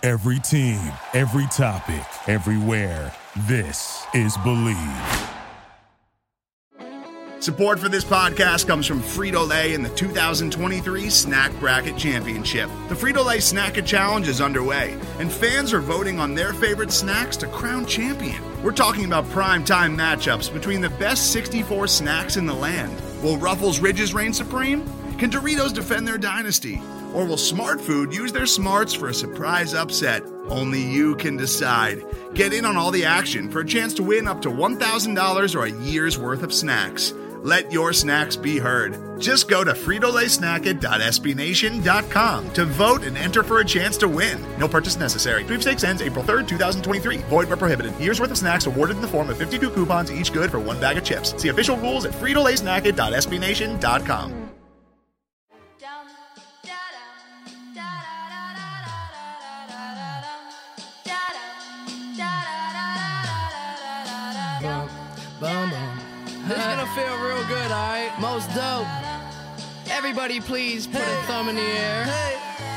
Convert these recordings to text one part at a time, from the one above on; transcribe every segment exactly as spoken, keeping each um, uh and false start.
Every team, every topic, everywhere. This is Believe. Support for this podcast comes from Frito-Lay and the two thousand twenty-three Snack Bracket Championship. The Frito-Lay Snack-It Challenge is underway, and fans are voting on their favorite snacks to crown champion. We're talking about prime-time matchups between the best sixty-four snacks in the land. Will Ruffles Ridges reign supreme? Can Doritos defend their dynasty? Or will Smart Food use their smarts for a surprise upset? Only you can decide. Get in on all the action for a chance to win up to one thousand dollars or a year's worth of snacks. Let your snacks be heard. Just go to Frito Lay Snack It dot S B Nation dot com to vote and enter for a chance to win. No purchase necessary. Sweepstakes ends April third, twenty twenty-three. Void where prohibited. Year's worth of snacks awarded in the form of fifty-two coupons, each good for one bag of chips. See official rules at Frito Lay Snack It dot S B Nation dot com. This is gonna feel real good, alright? Most dope. Everybody please put hey. a thumb in the air. Hey.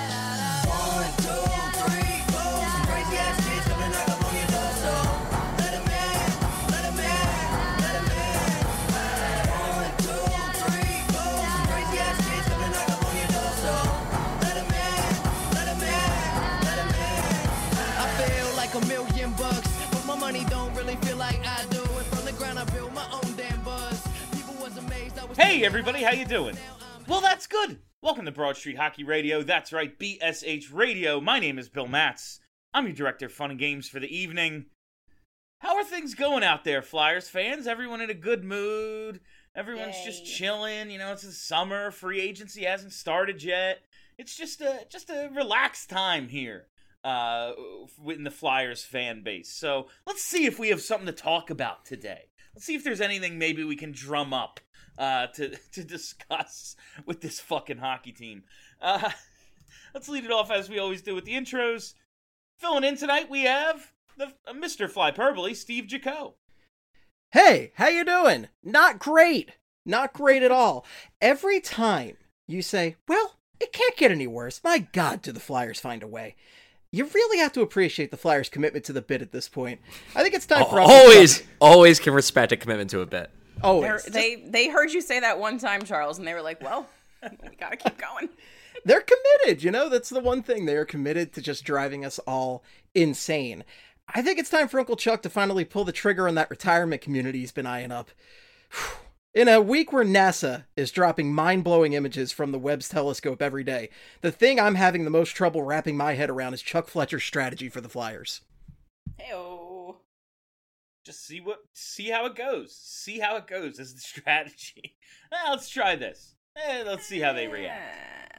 One, two, three, four. Some crazy ass kids coming knock up on your door, so let 'em in, let 'em in, let 'em in. One, two, three, four. Some crazy ass kids coming knock up on your door, so let 'em in, let 'em in, let 'em in. I feel like a million bucks, but my money don't really feel like I do. And from the ground I build my own damn buzz. People was amazed I was. Hey everybody, how you doing? Well, that's good. Welcome to Broad Street Hockey Radio. That's right, B S H Radio. My name is Bill Matz. I'm your director of fun and games for the evening. How are things going out there, Flyers fans? Everyone in a good mood? Everyone's Yay. just chilling. You know, it's the summer. Free agency hasn't started yet. It's just a just a relaxed time here uh, in the Flyers fan base. So let's see if we have something to talk about today. Let's see if there's anything maybe we can drum up uh, to to discuss with this fucking hockey team. Uh, let's lead it off as we always do with the intros. Filling in tonight, we have the uh, Mister Flyperbole, Steve Jaco. Hey, how you doing? Not great. Not great at all. Every time you say, well, it can't get any worse. My God, do the Flyers find a way. You really have to appreciate the Flyers' commitment to the bit at this point. I think it's time for us always, to always can respect a commitment to a bit. Always. They they heard you say that one time, Charles, and they were like, well, we gotta keep going. They're committed, you know? That's the one thing. They are committed to just driving us all insane. I think it's time for Uncle Chuck to finally pull the trigger on that retirement community he's been eyeing up. In a week where NASA is dropping mind-blowing images from the Webb's telescope every day, the thing I'm having the most trouble wrapping my head around is Chuck Fletcher's strategy for the Flyers. Hey-oh. Just see what, see how it goes. See how it goes is the strategy. Eh, let's try this. Eh, let's see how they react.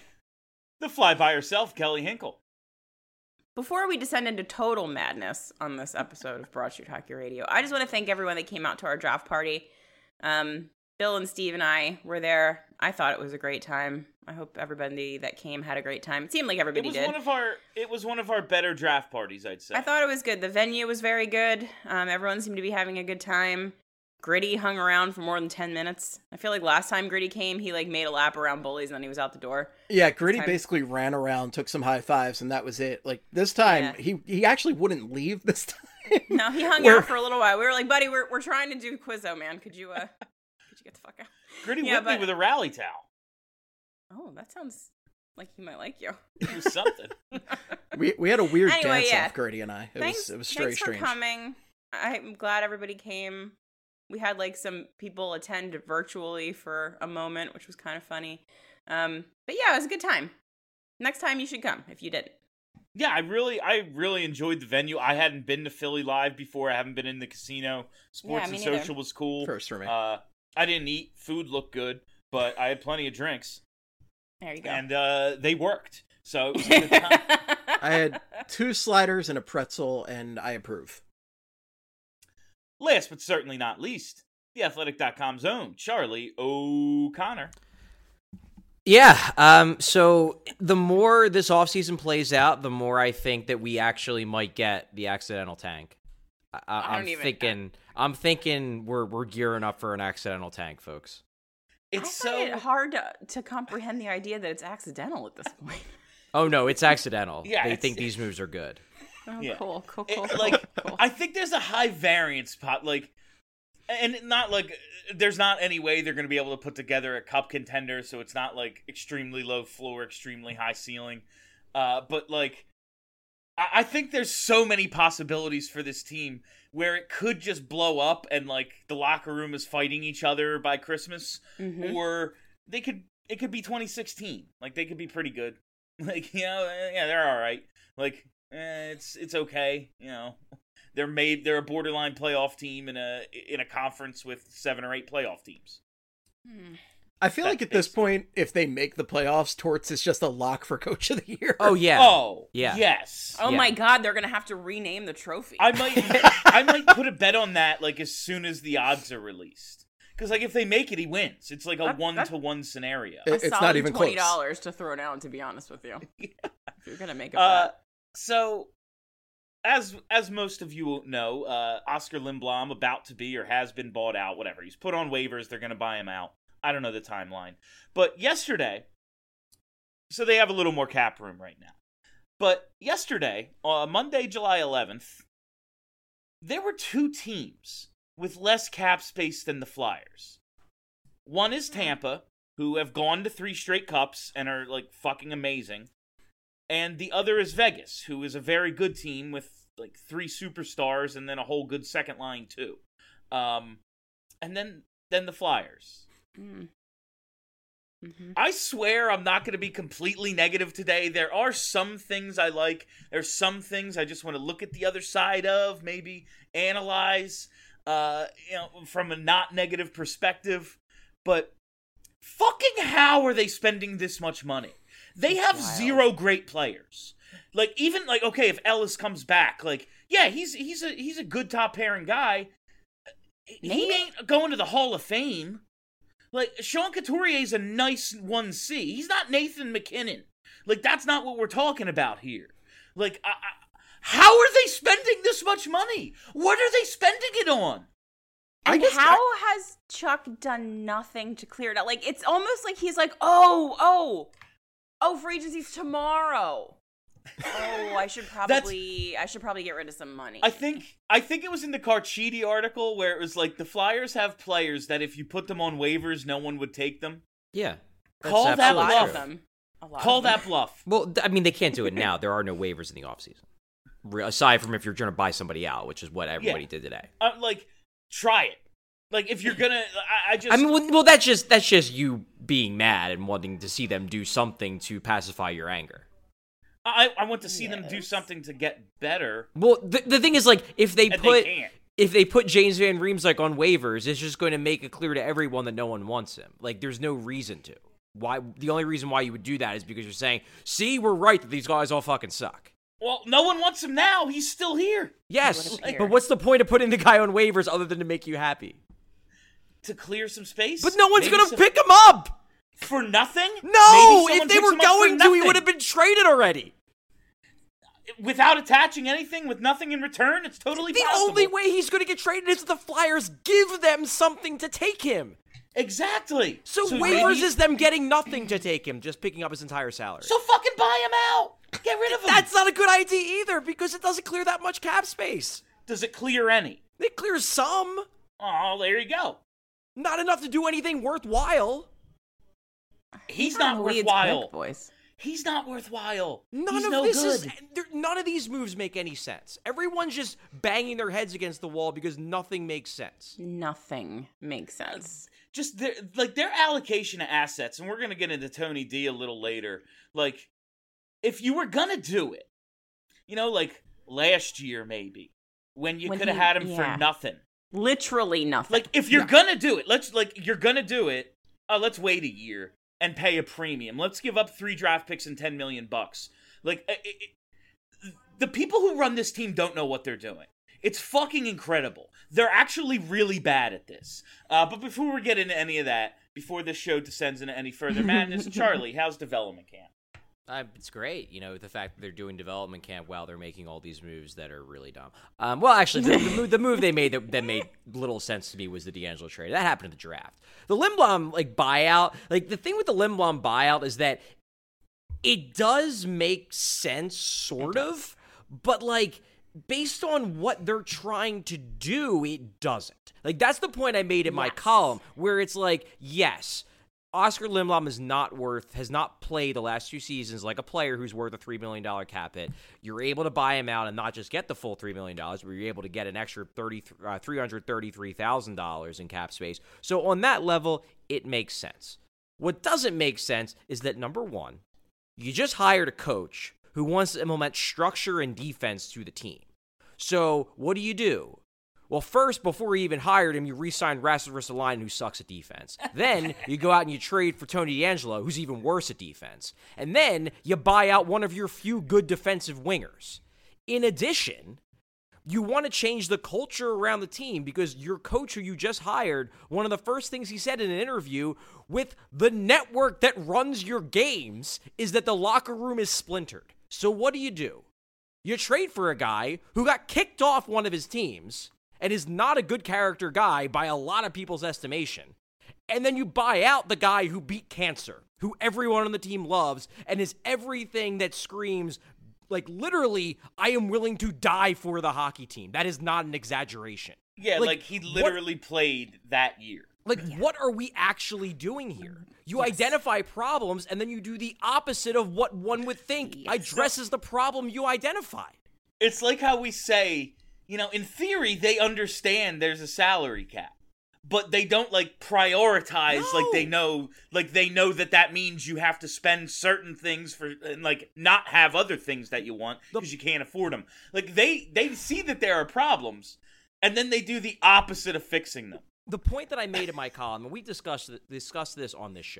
The fly by herself, Kelly Hinkle. Before we descend into total madness on this episode of Broad Street Hockey Radio, I just want to thank everyone that came out to our draft party. Um, Bill and Steve and I were there. I thought it was a great time. I hope everybody that came had a great time. It seemed like everybody it was did. One of our, it was one of our better draft parties, I'd say. I thought it was good. The venue was very good. Um, everyone seemed to be having a good time. Gritty hung around for more than ten minutes. I feel like last time Gritty came, he like made a lap around bullies and then he was out the door. Yeah, Gritty basically ran around, took some high fives, and that was it. Like this time, yeah. he he actually wouldn't leave this time. No, he hung Where... out for a little while. We were like, buddy, we're we're trying to do Quizzo, man. Could you uh could you get the fuck out? Gritty yeah, whipped but... me with a rally towel. Oh, that sounds like he might like you. It was something. we we had a weird anyway, dance yeah. off, Gritty and I. It thanks, was it was very thanks strange. Thanks for coming. I'm glad everybody came. We had like some people attend virtually for a moment, which was kind of funny. Um, but yeah, it was a good time. Next time you should come if you didn't. Yeah, I really, I really enjoyed the venue. I hadn't been to Philly Live before. I haven't been in the casino. Sports yeah, and neither. Social was cool. First for me. Uh, I didn't eat. Food looked good, but I had plenty of drinks. There you go. And uh, they worked. So it was a good time. I had two sliders and a pretzel, and I approve. Last but certainly not least, the athletic dot com's own Charlie O'Connor. Yeah, um, so the more this offseason plays out, the more I think that we actually might get the accidental tank. I, I I'm don't even, thinking, I'm thinking we're we're gearing up for an accidental tank, folks. It's I find so it hard to, to comprehend the idea that it's accidental at this point. Oh no, it's accidental. Yeah, they it's- think these moves are good. Oh, Yeah. cool, cool, It- cool. like, cool. I think there's a high variance pot, like, and not like there's not any way they're going to be able to put together a cup contender, so it's not like extremely low floor, extremely high ceiling. Uh, but like, I, I think there's so many possibilities for this team where it could just blow up and like the locker room is fighting each other by Christmas, Mhm. or they could it could be twenty sixteen. Like they could be pretty good. Like you know, yeah, they're all right. Like eh, it's it's okay. You know, they're made. They're a borderline playoff team in a in a conference with seven or eight playoff teams. Hmm. I feel That like at this is- point, if they make the playoffs, Torts is just a lock for Coach of the Year. Oh yeah. Oh Yeah. yes. Oh Yeah. my God, they're gonna have to rename the trophy. I might I might put a bet on that like as soon as the odds are released. Because like if they make it, he wins. It's like a That- one that- to one scenario. It- A it's not solid even twenty close. dollars to throw down. To be honest with you, if you're gonna make a Uh, bet. so as as most of you know, uh, Oscar Lindblom about to be or has been bought out. Whatever, he's put on waivers. They're going to buy him out. I don't know the timeline, but yesterday, so they have a little more cap room right now. But yesterday, uh, Monday, July eleventh, there were two teams with less cap space than the Flyers. One is Tampa, who have gone to three straight cups and are like fucking amazing. And the other is Vegas, who is a very good team with like three superstars and then a whole good second line too. Um, and then then the Flyers. Mm. Mhm. I swear I'm not going to be completely negative today. There are some things I like. There's some things I just want to look at the other side of, maybe analyze, uh, you know, from a not negative perspective. But fucking how are they spending this much money? They have wild. zero great players. Like even like okay, if Ellis comes back, like yeah, he's he's a he's a good top pairing guy. He Maybe. ain't going to the Hall of Fame. Like, Sean Couturier's a nice one C. He's not Nathan McKinnon. Like, that's not what we're talking about here. Like, I, I, how are they spending this much money? What are they spending it on? I And guess how I- has Chuck done nothing to clear it out? Like, it's almost like he's like, oh, oh, oh, free agency's tomorrow. Oh, I should probably, I should probably get rid of some money. I think I think it was in the Carchidi article where it was like the Flyers have players that if you put them on waivers, no one would take them. Yeah. That's Call that a absolutely lot bluff. of true. them. A lot Call of them. that bluff. Well, th- I mean, they can't do it now. There are no waivers in the offseason. Re- Aside from if you're trying to buy somebody out, which is what everybody Yeah. did today. Uh, like, try it. Like, if you're gonna, I, I just. I mean, well, well, that's just that's just you being mad and wanting to see them do something to pacify your anger. I, I want to see them do Yes. something to get better. Well, the, the thing is, like, if they And put they can't. if they put James Van Riemsdyk on waivers, it's just going to make it clear to everyone that no one wants him. Like, there's no reason to. Why? The only reason why you would do that is because you're saying, "See, we're right that these guys all fucking suck." Well, no one wants him now. He's still here. Yes, wouldn't care. but what's the point of putting the guy on waivers other than to make you happy? To clear some space. But no one's Maybe going to some- pick him up. for nothing. No, Maybe if someone they picks were him up for going to, he nothing. would have been traded already. Without attaching anything, with nothing in return. It's totally The possible. only way he's going to get traded is if the Flyers give them something to take him. Exactly. So, maybe- waivers is them getting nothing to take him, just picking up his entire salary. So fucking buy him out. Get rid of him. That's not a good idea either because it doesn't clear that much cap space. Does it clear any? It clears some, Oh, there you go. not enough to do anything worthwhile. He's not Weeds worthwhile. quick, boys. He's not worthwhile. None He's of no this good. is. there- None of these moves make any sense. Everyone's just banging their heads against the wall because nothing makes sense. Nothing makes sense. Just their like their allocation of assets, and we're gonna get into Tony D a little later. Like, if you were gonna do it, you know, like last year maybe, when you When could have he- had him yeah. for nothing. Literally nothing. Like, if you're gonna do it, let's like you're gonna do it. Oh, let's wait a year and pay a premium. Let's give up three draft picks and ten million bucks. Like, it, it, the people who run this team don't know what they're doing. It's fucking incredible. They're actually really bad at this. Uh, but before we get into any of that, before this show descends into any further madness, Charlie, how's development camp? Uh, it's great, you know, the fact that they're doing development camp while they're making all these moves that are really dumb. Um, well, actually, the, the, move, the move they made that, that made little sense to me was the D'Angelo trade. That happened in the draft. The Lindblom like buyout, like the thing with the Lindblom buyout is that it does make sense, sort of, but like based on what they're trying to do, it doesn't. Like that's the point I made in my Yes. column, where it's like, yes, Oscar Lindblom is not worth, has not played the last two seasons like a player who's worth a three million dollars cap hit. You're able to buy him out and not just get the full three million dollars, but you're able to get an extra thirty, uh, three hundred thirty-three thousand dollars in cap space. So on that level, it makes sense. What doesn't make sense is that, number one, you just hired a coach who wants to implement structure and defense to the team. So what do you do? Well, first, before you even hired him, you re-signed Rasmus Ristolainen, who sucks at defense. Then you go out and you trade for Tony DeAngelo, who's even worse at defense. And then you buy out one of your few good defensive wingers. In addition, you want to change the culture around the team because your coach who you just hired, one of the first things he said in an interview with the network that runs your games is that the locker room is splintered. So what do you do? You trade for a guy who got kicked off one of his teams and is not a good character guy by a lot of people's estimation. And then you buy out the guy who beat cancer, who everyone on the team loves, and is everything that screams, like, literally, I am willing to die for the hockey team. That is not an exaggeration. Yeah, like, Like, he literally what- played that year. Like, what are we actually doing here? You identify problems, and then you do the opposite of what one would think Yes. addresses the problem you identified. It's like how we say, you know, in theory, they understand there's a salary cap, but they don't, like, prioritize, No. like, they know, like, they know that that means you have to spend certain things for, and, like, not have other things that you want because you can't afford them. Like, they, they see that there are problems, and then they do the opposite of fixing them. The point that I made in my column, and we discussed discussed this on this show.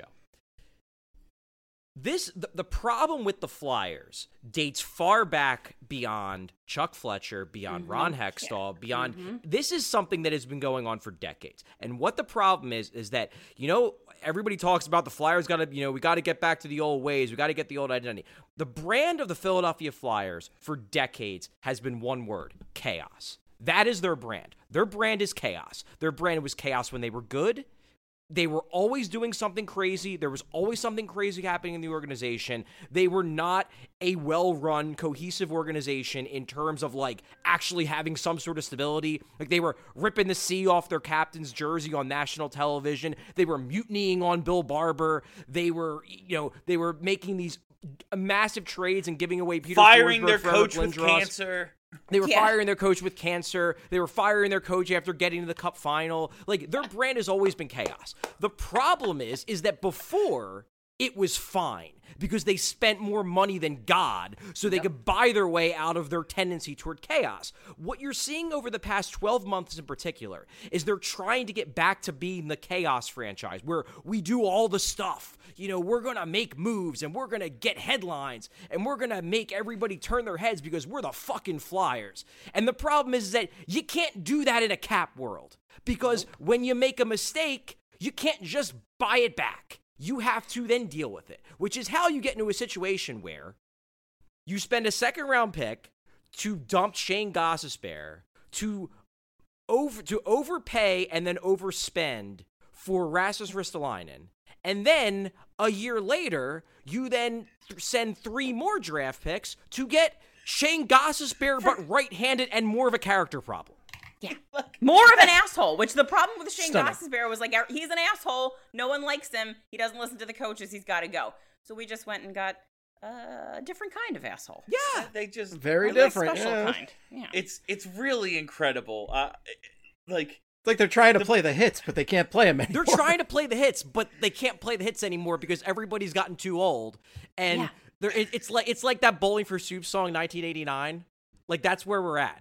This the, the problem with the Flyers dates far back beyond Chuck Fletcher, beyond Mm-hmm. Ron Hextall, beyond this is something that has been going on for decades. And what the problem is is that, you know, everybody talks about the Flyers got to, you know, we got to get back to the old ways, we got to get the old identity. The brand of the Philadelphia Flyers for decades has been one word: chaos. That is their brand. Their brand is chaos. Their brand was chaos when they were good. They were always doing something crazy. There was always something crazy happening in the organization. They were not a well-run, cohesive organization in terms of, like, actually having some sort of stability. Like, they were ripping the C off their captain's jersey on national television. They were mutinying on Bill Barber. They were, you know, they were making these massive trades and giving away Peter Firing Forsberg their for coach Eric with Lindros. cancer. They were Yeah. firing their coach with cancer. They were firing their coach after getting to the cup final. Like, their brand has always been chaos. The problem is, is that before, it was fine because they spent more money than God so they could buy their way out of their tendency toward chaos. What you're seeing over the past twelve months in particular is they're trying to get back to being the chaos franchise where we do all the stuff. You know, we're going to make moves and we're going to get headlines and we're going to make everybody turn their heads because we're the fucking Flyers. And the problem is that you can't do that in a cap world because when you make a mistake, you can't just buy it back. You have to then deal with it, which is how you get into a situation where you spend a second round pick to dump Shane Gostisbehere, to over to overpay and then overspend for Rasmus Ristolainen, and then a year later you then th- send three more draft picks to get Shane Gostisbehere, but right-handed and more of a character problem. Yeah. More of an asshole, which the problem with Shane Stunning. Gostisbehere was like, he's an asshole. No one likes him. He doesn't listen to the coaches. He's got to go. So we just went and got uh, a different kind of asshole. Yeah. They just Very A really different. special Yeah. kind. Yeah. It's it's really incredible. Uh, like It's like they're trying to play the hits, but they can't play them anymore. They're trying to play the hits, but they can't play the hits anymore because everybody's gotten too old. And Yeah. they're, it, it's like it's like that Bowling for Soup song, nineteen eighty-nine. Like, that's where we're at.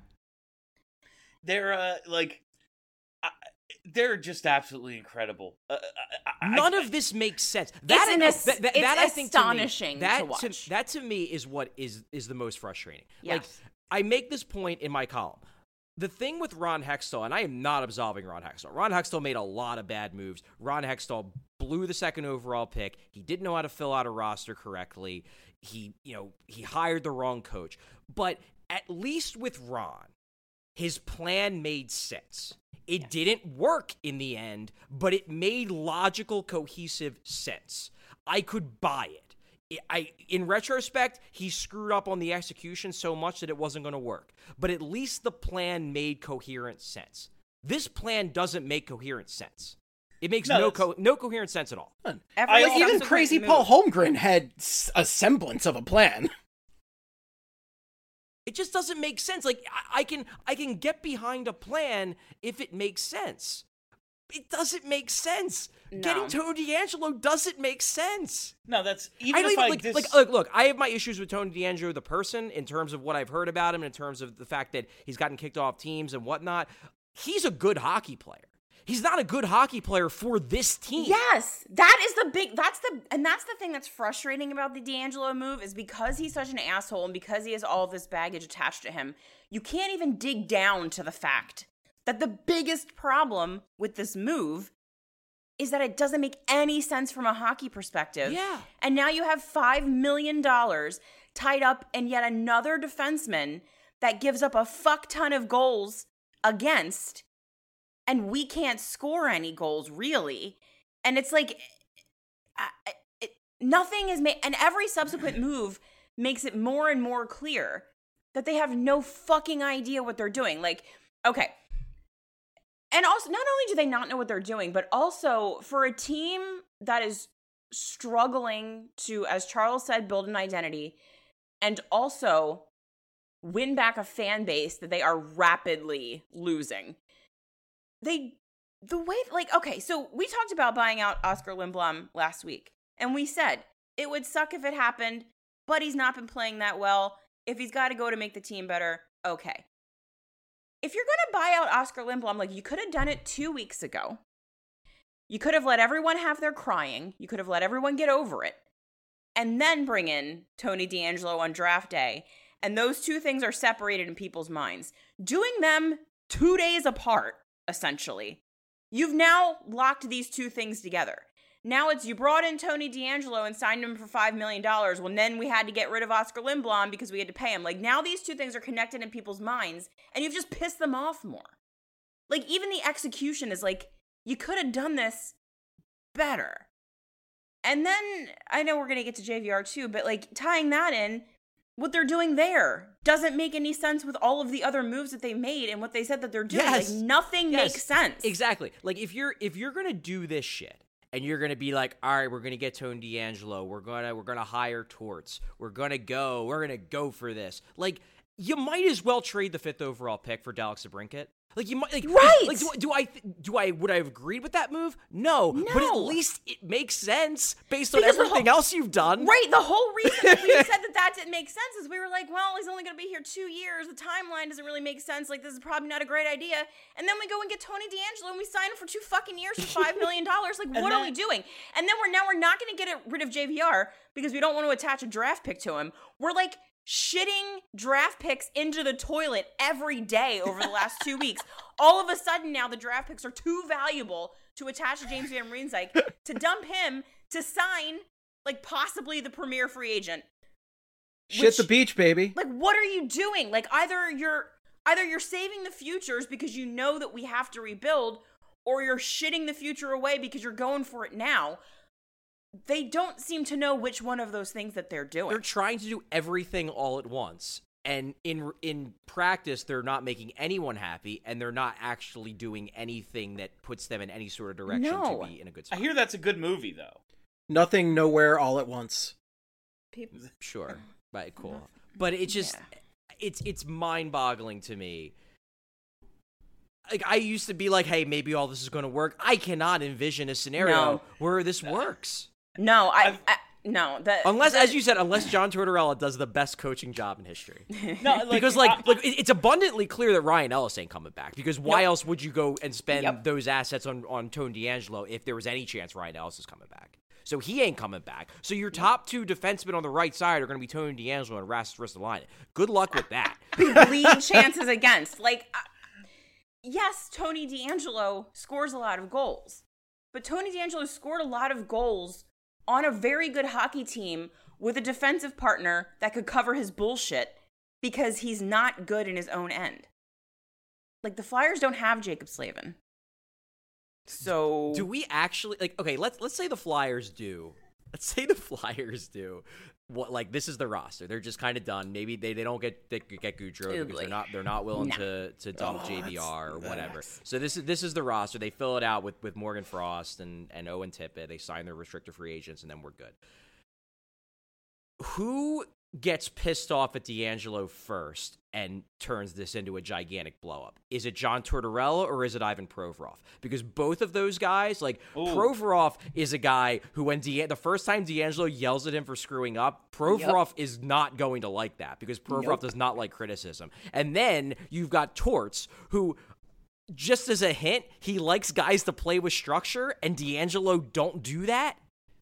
they're uh, like uh, they're just absolutely incredible. Uh, I, I, None I, of this makes sense. That, an as- that, that, it's that I think to me- astonishing that to watch. that to me is what is is the most frustrating. Like, Yes. I make this point in my column. The thing with Ron Hextall, and I am not absolving Ron Hextall. Ron Hextall made a lot of bad moves. Ron Hextall blew the second overall pick. He didn't know how to fill out a roster correctly. He, you know, he hired the wrong coach. But at least with Ron, his plan made sense. It didn't work in the end, but it made logical, cohesive sense. I could buy it. I, in retrospect, he screwed up on the execution so much that it wasn't going to work. But at least the plan made coherent sense. This plan doesn't make coherent sense. It makes no no, co- no coherent sense at all. Every Like, even subsequent crazy move- Paul Holmgren had s- a semblance of a plan. It just doesn't make sense. Like I, I can I can get behind a plan if it makes sense. It doesn't make sense. No. Getting Tony D'Angelo doesn't make sense. No, that's even I don't if even I like, dis- like look, look, I have my issues with Tony D'Angelo the person in terms of what I've heard about him, in terms of the fact that he's gotten kicked off teams and whatnot. He's a good hockey player. He's not a good hockey player for this team. Yes, that is the big, that's the, and that's the thing that's frustrating about the D'Angelo move is because he's such an asshole and because he has all of this baggage attached to him, you can't even dig down to the fact that the biggest problem with this move is that it doesn't make any sense from a hockey perspective. Yeah. And now you have five million dollars tied up in yet another defenseman that gives up a fuck ton of goals against, and we can't score any goals, really. And it's like, I, it, nothing is made, and every subsequent move makes it more and more clear that they have no fucking idea what they're doing. Like, okay. And also, not only do they not know what they're doing, but also for a team that is struggling to, as Charles said, build an identity and also win back a fan base that they are rapidly losing. They, the way, like, okay, so we talked about buying out Oscar Lindblom last week, and we said it would suck if it happened, but he's not been playing that well. If he's got to go to make the team better, okay. If you're going to buy out Oscar Lindblom, like, you could have done it two weeks ago. You could have let everyone have their crying. You could have let everyone get over it. And then bring in Tony D'Angelo on draft day. And those two things are separated in people's minds. Doing them two days apart, essentially, you've now locked these two things together. Now it's you brought in Tony D'Angelo and signed him for five million dollars. Well, then we had to get rid of Oscar Lindblom because we had to pay him. Like, now these two things are connected in people's minds, and you've just pissed them off more. Like, even the execution is like, you could have done this better. And then, I know we're going to get to J V R too, but, like, tying that in, what they're doing there doesn't make any sense with all of the other moves that they made and what they said that they're doing. Yes. Like, nothing Yes. makes sense. Exactly. Like, if you're if you're gonna do this shit, and you're gonna be like, all right, we're gonna get Tony D'Angelo, we're gonna we're gonna hire Torts, we're gonna go, we're gonna go for this. Like, you might as well trade the fifth overall pick for Dalek Sabrinket. Like, you might, like, Right. Like, do, do I do I would I have agreed with that move? No, but at No. least it makes sense based on Because the everything whole- else you've done. Right, the whole reason that we said that that didn't make sense is we were like, well, he's only going to be here two years. The timeline doesn't really make sense. Like, this is probably not a great idea. And then we go and get Tony D'Angelo and we sign him for two fucking years for five million dollars. Like, what are we then- doing? And then we're now we're not going to get rid of J V R because we don't want to attach a draft pick to him. We're like shitting draft picks into the toilet every day over the last two weeks. All of a sudden now the draft picks are too valuable to attach to James Van Riemsdyk to dump him to sign, like, possibly the premier free agent. Shit Which- the beach, baby. Like, what are you doing? Like, either you're either you're saving the futures because you know that we have to rebuild, or you're shitting the future away because you're going for it now. They don't seem to know which one of those things that they're doing. They're trying to do everything all at once. And in in practice, they're not making anyone happy, and they're not actually doing anything that puts them in any sort of direction No. to be in a good I spot. hear that's a good movie, though. Nothing, nowhere, all at once. People, Sure, right, cool. But it just, Yeah. it's it's mind-boggling to me. Like, I used to be like, hey, maybe all this is going to work. I cannot envision a scenario No. where this works. no, I, I've- I no. That Unless, that- as you said, unless John Tortorella does the best coaching job in history. No, like, Because, like, I- like it- it's abundantly clear that Ryan Ellis ain't coming back. Because why Yep. else would you go and spend Yep. those assets on, on Tony D'Angelo if there was any chance Ryan Ellis is coming back? So he ain't coming back. So your top two defensemen on the right side are going to be Tony D'Angelo and Rasmus Ristolainen. Good luck with that. lead chances against. Like, uh, yes, Tony D'Angelo scores a lot of goals, but Tony D'Angelo scored a lot of goals on a very good hockey team with a defensive partner that could cover his bullshit because he's not good in his own end. Like, the Flyers don't have Jacob Slavin. So Do we actually like? Okay, let's let's say the Flyers do let's say the Flyers do what, like, this is the roster. They're just kind of done. Maybe they, they don't get they get Goudreau because Ugly. they're not they're not willing No. to to dump Oh, J V R or that's- whatever. So this is this is the roster. They fill it out with with Morgan Frost and and Owen Tippett. They sign their restricted free agents, and then we're good. Who gets pissed off at D'Angelo first and turns this into a gigantic blowup? Is it John Tortorella or is it Ivan Provorov? Because both of those guys, like, Ooh. Provorov is a guy who, when De- the first time D'Angelo yells at him for screwing up, Provorov is not going to like that because Provorov Nope. does not like criticism. And then you've got Torts, who, just as a hint, he likes guys to play with structure, and D'Angelo don't do that.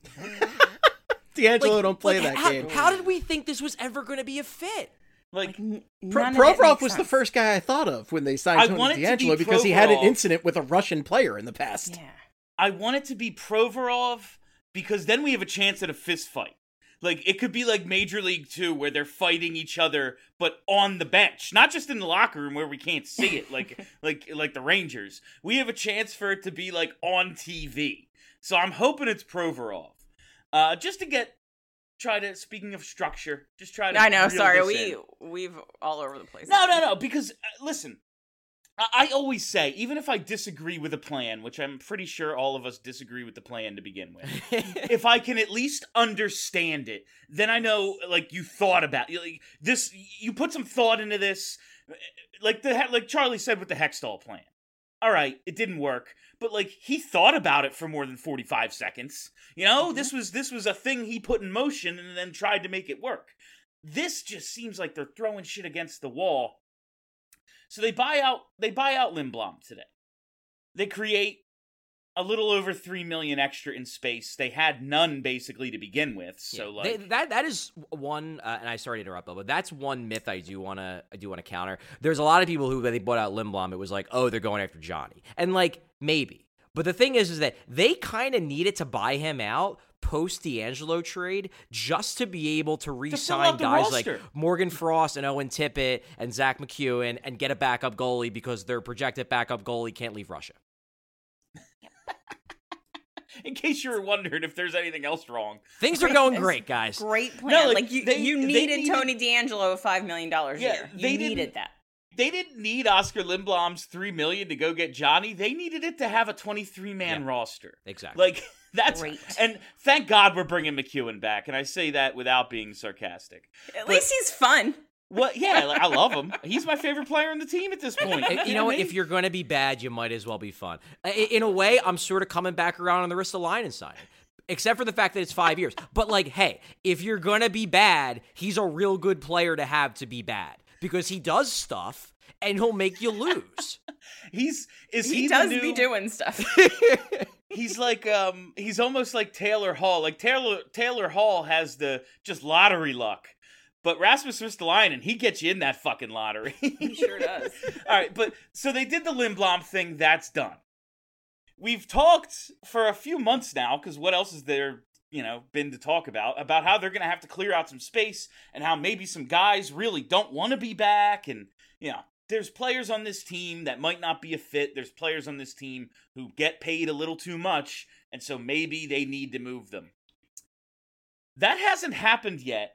D'Angelo Like- don't play like, that how, game. How did we think this was ever going to be a fit? Like, N- Pro- none of it Provorov makes was the sense. first guy I thought of when they signed I Tony want it to be D'Angelo because he had an Provorov. incident with a Russian player in the past. Yeah. I want it to be Provorov because then we have a chance at a fist fight. Like, it could be like Major League Two where they're fighting each other, but on the bench, not just in the locker room where we can't see it, like like like the Rangers. We have a chance for it to be like on T V. So I'm hoping it's Provorov, uh, just to get try to. Speaking of structure, just try to. I know. reel Sorry, this we in. we've all over the place. No, no, no. Because uh, listen, I-, I always say, even if I disagree with a plan, which I'm pretty sure all of us disagree with the plan to begin with, if I can at least understand it, then I know, like, you thought about like, this. You put some thought into this, like the like Charlie said with the Hextall plan. All right, it didn't work, but like he thought about it for more than forty-five seconds. You know, Mm-hmm. this was this was a thing he put in motion and then tried to make it work. This just seems like they're throwing shit against the wall. So they buy out they buy out Lindblom today. They create a little over three million extra in space. They had none basically to begin with. So Yeah, like they- that that is one, uh, and I sorry to interrupt, Bill, but that's one myth I do want to I do want to counter. There's a lot of people who, when they bought out Lindblom, it was like, oh, they're going after Johnny, and like maybe, but the thing is, is that they kind of needed to buy him out post D'Angelo trade just to be able to fill re-sign out the guys like roster. Morgan Frost and Owen Tippett and Zach McEwen and get a backup goalie because their projected backup goalie can't leave Russia. in case you were wondering if there's anything else wrong. Things are going great, guys. Great plan. No, like, like, you, they- you they needed, needed- Tony D'Angelo five million dollars Yeah, a year. You they needed didn't- that. They didn't need Oscar Lindblom's three million to go get Johnny. They needed it to have a twenty-three man Yeah. roster. Exactly. Like that's Great. and thank God we're bringing McEwen back. And I say that without being sarcastic. At But- least he's fun. What? Yeah, like, I love him. He's my favorite player on the team at this point. You know what? If you're going to be bad, you might as well be fun. I- In a way, I'm sort of coming back around on the Ristolainen signing, except for the fact that it's five years. But, like, hey, if you're going to be bad, he's a real good player to have to be bad because he does stuff and he'll make you lose. he's is he, He, the does new, be doing stuff. He's like um he's almost like Taylor Hall. Like Taylor Taylor Hall has the just lottery luck. But Rasmus Ristolainen, he gets you in that fucking lottery. He sure does. All right, but so they did the Lindblom thing. That's done. We've talked for a few months now, because what else is there, you know, been to talk about, about how they're going to have to clear out some space and how maybe some guys really don't want to be back. And, you know, there's players on this team that might not be a fit. There's players on this team who get paid a little too much, and so maybe they need to move them. That hasn't happened yet.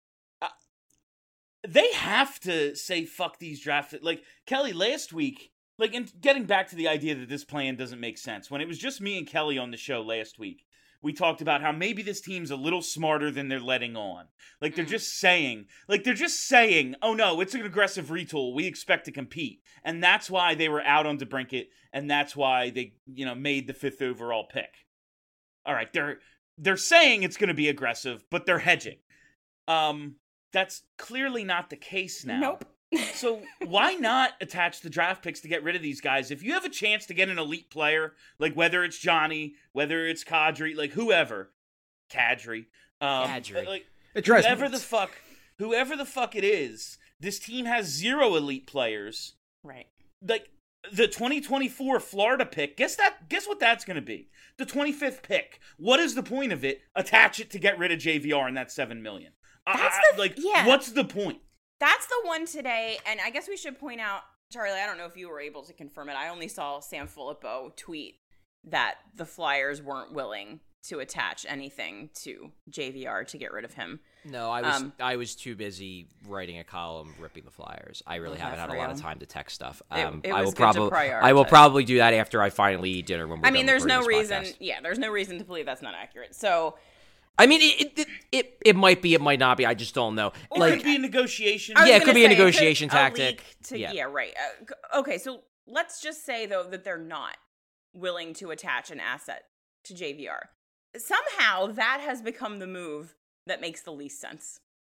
They have to say fuck these draft. Like Kelly last week, like, and getting back to the idea that this plan doesn't make sense. When it was just me and Kelly on the show last week, we talked about how maybe this team's a little smarter than they're letting on. Like they're just saying, like they're just saying, oh no, it's an aggressive retool. We expect to compete, and that's why they were out on DeBrincat, and that's why they, you know, made the fifth overall pick. All right, they're they're saying it's going to be aggressive, but they're hedging. Um. That's clearly not the case now. Nope. So why not attach the draft picks to get rid of these guys? If you have a chance to get an elite player, like whether it's Johnny, whether it's Kadri, like whoever, Kadri, um, Kadri. like It drives me whoever the nuts. fuck, whoever the fuck it is, this team has zero elite players. Right. Like the twenty twenty-four Florida pick, guess that? Guess what that's going to be? The twenty-fifth pick. What is the point of it? Attach it to get rid of J V R and that seven million. That's I- the- like, yeah. what's the point? That's the one today, and I guess we should point out, Charlie, I don't know if you were able to confirm it. I only saw Sam Filippo tweet that the Flyers weren't willing to attach anything to J V R to get rid of him. No, I was Um, I was too busy writing a column ripping the Flyers. I really Yeah, haven't had for a lot of real. time to text stuff. It- Um, it I was will good to probably I will prioritize. probably do that after I finally eat dinner when we're I mean, done there's no recording this reason. podcast. Yeah, there's no reason to believe that's not accurate. So, I mean, it it, it it might be, it might not be. I just don't know. Or it Like, could be a negotiation. I was Yeah, it gonna could be a say, negotiation could- a tactic. leak To, Yeah. yeah. right. Uh, c- okay, so let's just say though that they're not willing to attach an asset to J V R. Somehow that has become the move that makes the least sense,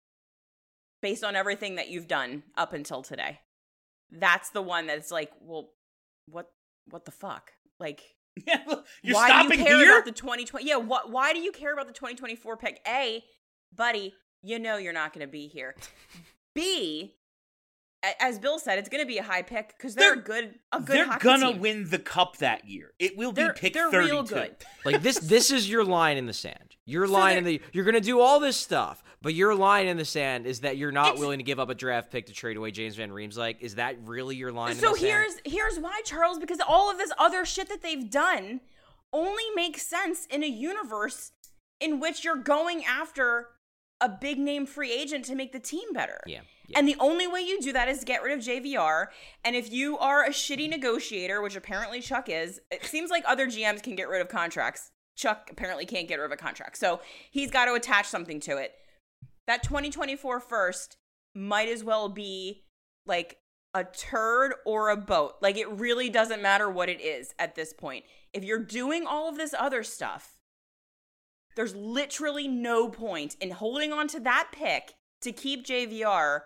based on everything that you've done up until today. That's the one that's like, well, what, what the fuck, like. Yeah, you're why stopping do you care here? about the twenty twenty? Yeah, what? Why do you care about the twenty twenty-four pick? A, buddy, you know you're not going to be here. B, a- as Bill said, it's going to be a high pick because they're, They're- a good, a good. They're hockey gonna team. win the cup that year. It will be They're, pick they're thirty-two. real good. like this this is your line in the sand. Your So line in they're- the you're gonna do all this stuff, but your line in the sand is that you're not It's- willing to give up a draft pick to trade away James Van Riemsdyk. Like, is that really your line? So in the sand? here's here's why, Charles, because all of this other shit that they've done only makes sense in a universe in which you're going after a big name free agent to make the team better. Yeah, yeah. And the only way you do that is get rid of J V R. And if you are a shitty negotiator, which apparently Chuck is, it seems like other G Ms can get rid of contracts. Chuck apparently can't get rid of a contract. So he's got to attach something to it. That twenty twenty-four first might as well be like a turd or a boat. Like, it really doesn't matter what it is at this point. If you're doing all of this other stuff, there's literally no point in holding on to that pick to keep J V R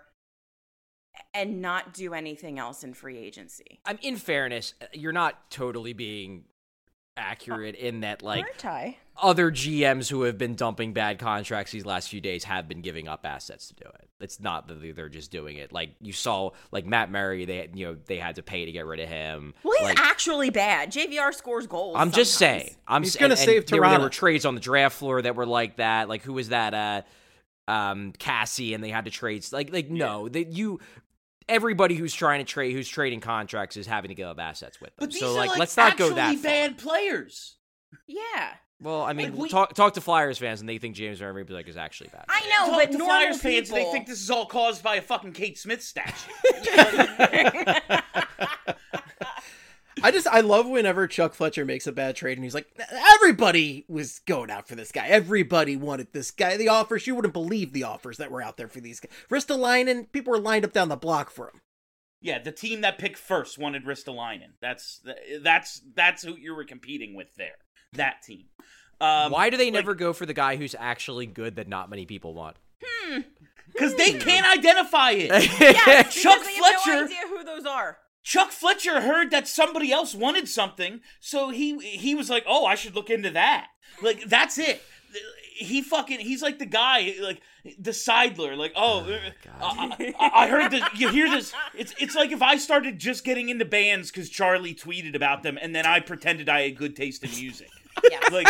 and not do anything else in free agency. I'm in fairness, you're not totally being accurate in that, like, Aren't I? other G Ms who have been dumping bad contracts these last few days have been giving up assets to do it. It's not that they're just doing it. Like, you saw, like, Matt Murray, they you know they had to pay to get rid of him. Well, he's like, actually bad. J V R scores goals. I'm just sometimes. saying. I'm He's s- gonna and- and save there, were- there Toronto. were trades on the draft floor that were like that. Like, who was that? Uh, um, Cassie, and they had to trade. Like, like no, that you. Everybody who's trying to trade, who's trading contracts, is having to give up assets with them. But these so, are like, like let's not go that actually far. bad players. Yeah. Well, I mean, Like, we- talk talk to Flyers fans, and they think James Van Riemsdyk is actually bad. I know, Talk but to normal Flyers people... fans, they think this is all caused by a fucking Kate Smith statue. I just I love whenever Chuck Fletcher makes a bad trade and he's like, everybody was going out for this guy. Everybody wanted this guy. The offers, you wouldn't believe the offers that were out there for these guys. Ristolainen, people were lined up down the block for him. Yeah, the team that picked first wanted Ristolainen. That's that's that's who you were competing with there. That team. Um, Why do they like- never go for the guy who's actually good that not many people want? Because they can't identify it. Yes, Chuck because they have Fletcher- no idea who those are. Chuck Fletcher heard that somebody else wanted something, so he he was like, "Oh, I should look into that." Like, that's it. He fucking he's like the guy, like the Seidler, like, "Oh, I, I, I heard that. You hear this? It's it's like if I started just getting into bands because Charlie tweeted about them, and then I pretended I had good taste in music. Yes. Like,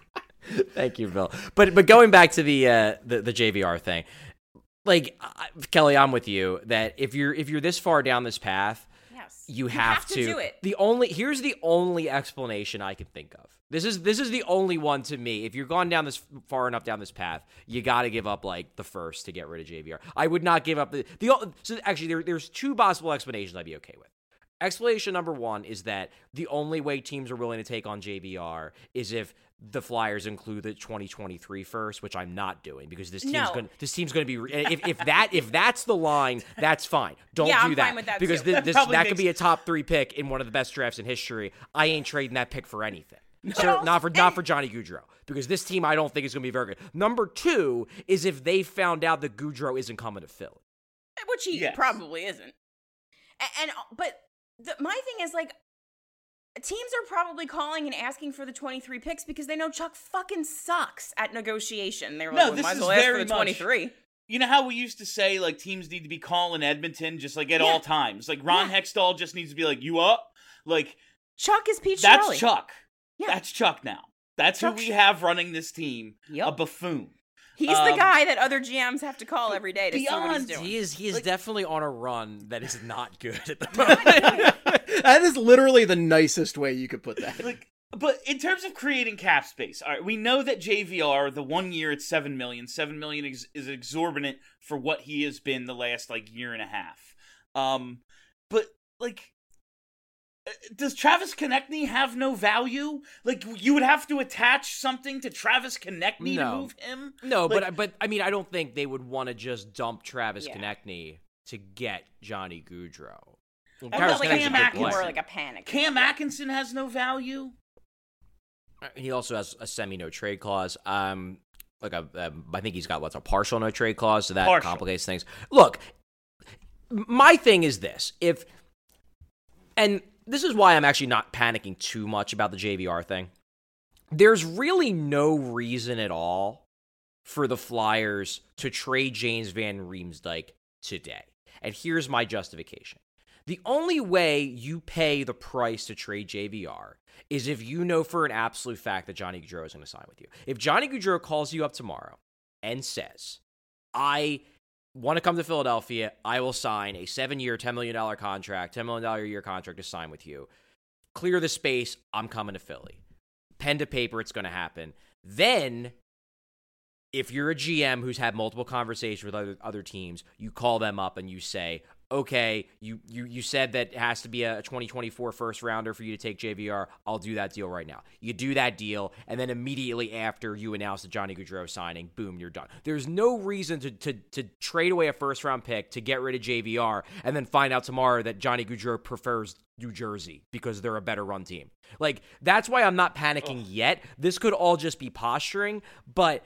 Thank you, Bill. But but going back to the uh, the, the J V R thing, like I- Kelly, I'm with you that if you're if you're this far down this path, Yes. you have, to do it. The only here's the only explanation I can think of. This is this is the only one to me. If you're gone down this far enough down this path, you got to give up like the first to get rid of J V R. I would not give up the the. So actually, there, there's two possible explanations I'd be okay with. Explanation number one is that the only way teams are willing to take on J V R is if the Flyers include the twenty twenty-three first, which I'm not doing because this team's No. going this team's going to be if if that if that's the line, that's fine. Don't Yeah, do I'm that, fine with that, because too. thi- That this probably that could makes- be a top three pick in one of the best drafts in history. I ain't trading that pick for anything. So also- not for not for Johnny Gaudreau, because this team I don't think is going to be very good. Number two is if they found out that Gaudreau isn't coming to Philly. Which he Yes. probably isn't. And, and but the, my thing is, like, teams are probably calling and asking for the twenty-three picks because they know Chuck fucking sucks at negotiation. They're No, like, well, this might as is well ask for very the much- twenty-three. you know how we used to say like teams need to be calling Edmonton just like at Yeah. all times. Like Ron Yeah. Hextall just needs to be like, "You up?" Like Chuck is Pete that's Shirley. Chuck. Yeah. That's Chuck now. That's Chuck who we Sh- have running this team. Yep. A buffoon. He's the Um, guy that other G Ms have to call every day to see what he's beyond- doing. He is he is Like- definitely on a run that is not good at the moment. That is literally the nicest way you could put that. Like But in terms of creating cap space, all right, we know that J V R, the one year it's seven million dollars. seven million dollars is, is exorbitant for what he has been the last, like, year and a half. Um, but, like, does Travis Konechny have no value? Like, you would have to attach something to Travis Konechny No. to move him? No, Like- but but I mean, I don't think they would want to just dump Travis Yeah. Konechny to get Johnny Gaudreau. Well, Oh, Travis well, like Konechny's a Cam good Atkinson. player. More like a panic. Cam Atkinson has no value? He also has a semi no trade clause. Um, like a, um, I think he's got what's a partial no trade clause, so that Partial. complicates things. Look, my thing is this: if, and this is why I'm actually not panicking too much about the J V R thing. There's really no reason at all for the Flyers to trade James Van Riemsdyk today, and here's my justification. The only way you pay the price to trade J V R is if you know for an absolute fact that Johnny Gaudreau is going to sign with you. If Johnny Gaudreau calls you up tomorrow and says, I want to come to Philadelphia, I will sign a seven-year, ten million dollars contract, ten million dollars a year contract to sign with you. Clear the space, I'm coming to Philly. Pen to paper, it's going to happen. Then, if you're a G M who's had multiple conversations with other, other teams, you call them up and you say, okay, you, you you said that it has to be a twenty twenty-four first rounder for you to take J V R. I'll do that deal right now. You do that deal, and then immediately after you announce the Johnny Gaudreau signing, boom, you're done. There's no reason to, to, to trade away a first round pick to get rid of J V R and then find out tomorrow that Johnny Gaudreau prefers New Jersey because they're a better run team. Like, that's why I'm not panicking Ugh. yet. This could all just be posturing, but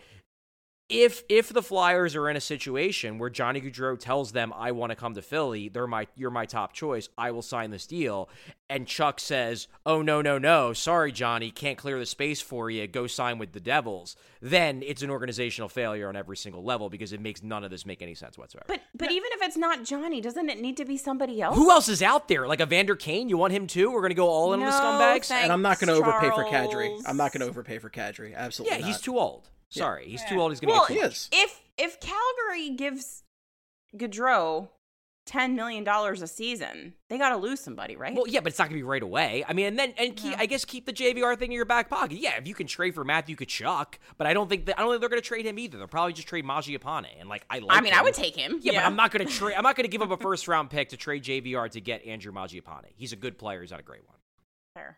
If if the Flyers are in a situation where Johnny Gaudreau tells them, I want to come to Philly, they're my you're my top choice, I will sign this deal, and Chuck says, oh, no, no, no, sorry, Johnny, can't clear the space for you, go sign with the Devils, then it's an organizational failure on every single level because it makes none of this make any sense whatsoever. But but even if it's not Johnny, doesn't it need to be somebody else? Who else is out there? Like a Vander Kane? You want him too? We're going to go all in No, on the scumbags? thanks, And I'm not going to overpay for Kadri. Charles. I'm not going to overpay for Kadri. Absolutely Yeah, not. he's too old. Sorry, he's too old. He's going to Well, get He too is. if if Calgary gives Gaudreau ten million dollars a season, they got to lose somebody, right? Well, yeah, but it's not going to be right away. I mean, and then and keep, Yeah. I guess keep the J V R thing in your back pocket. Yeah, if you can trade for Matthew Tkachuk, but I don't think that I don't think they're going to trade him either. They'll probably just trade Mangiapane, and like I like. I mean, him. I would take him. Yeah, but I'm not going to trade. I'm not going to give up a first round pick to trade J V R to get Andrew Mangiapane. He's a good player. He's not a great one. Fair.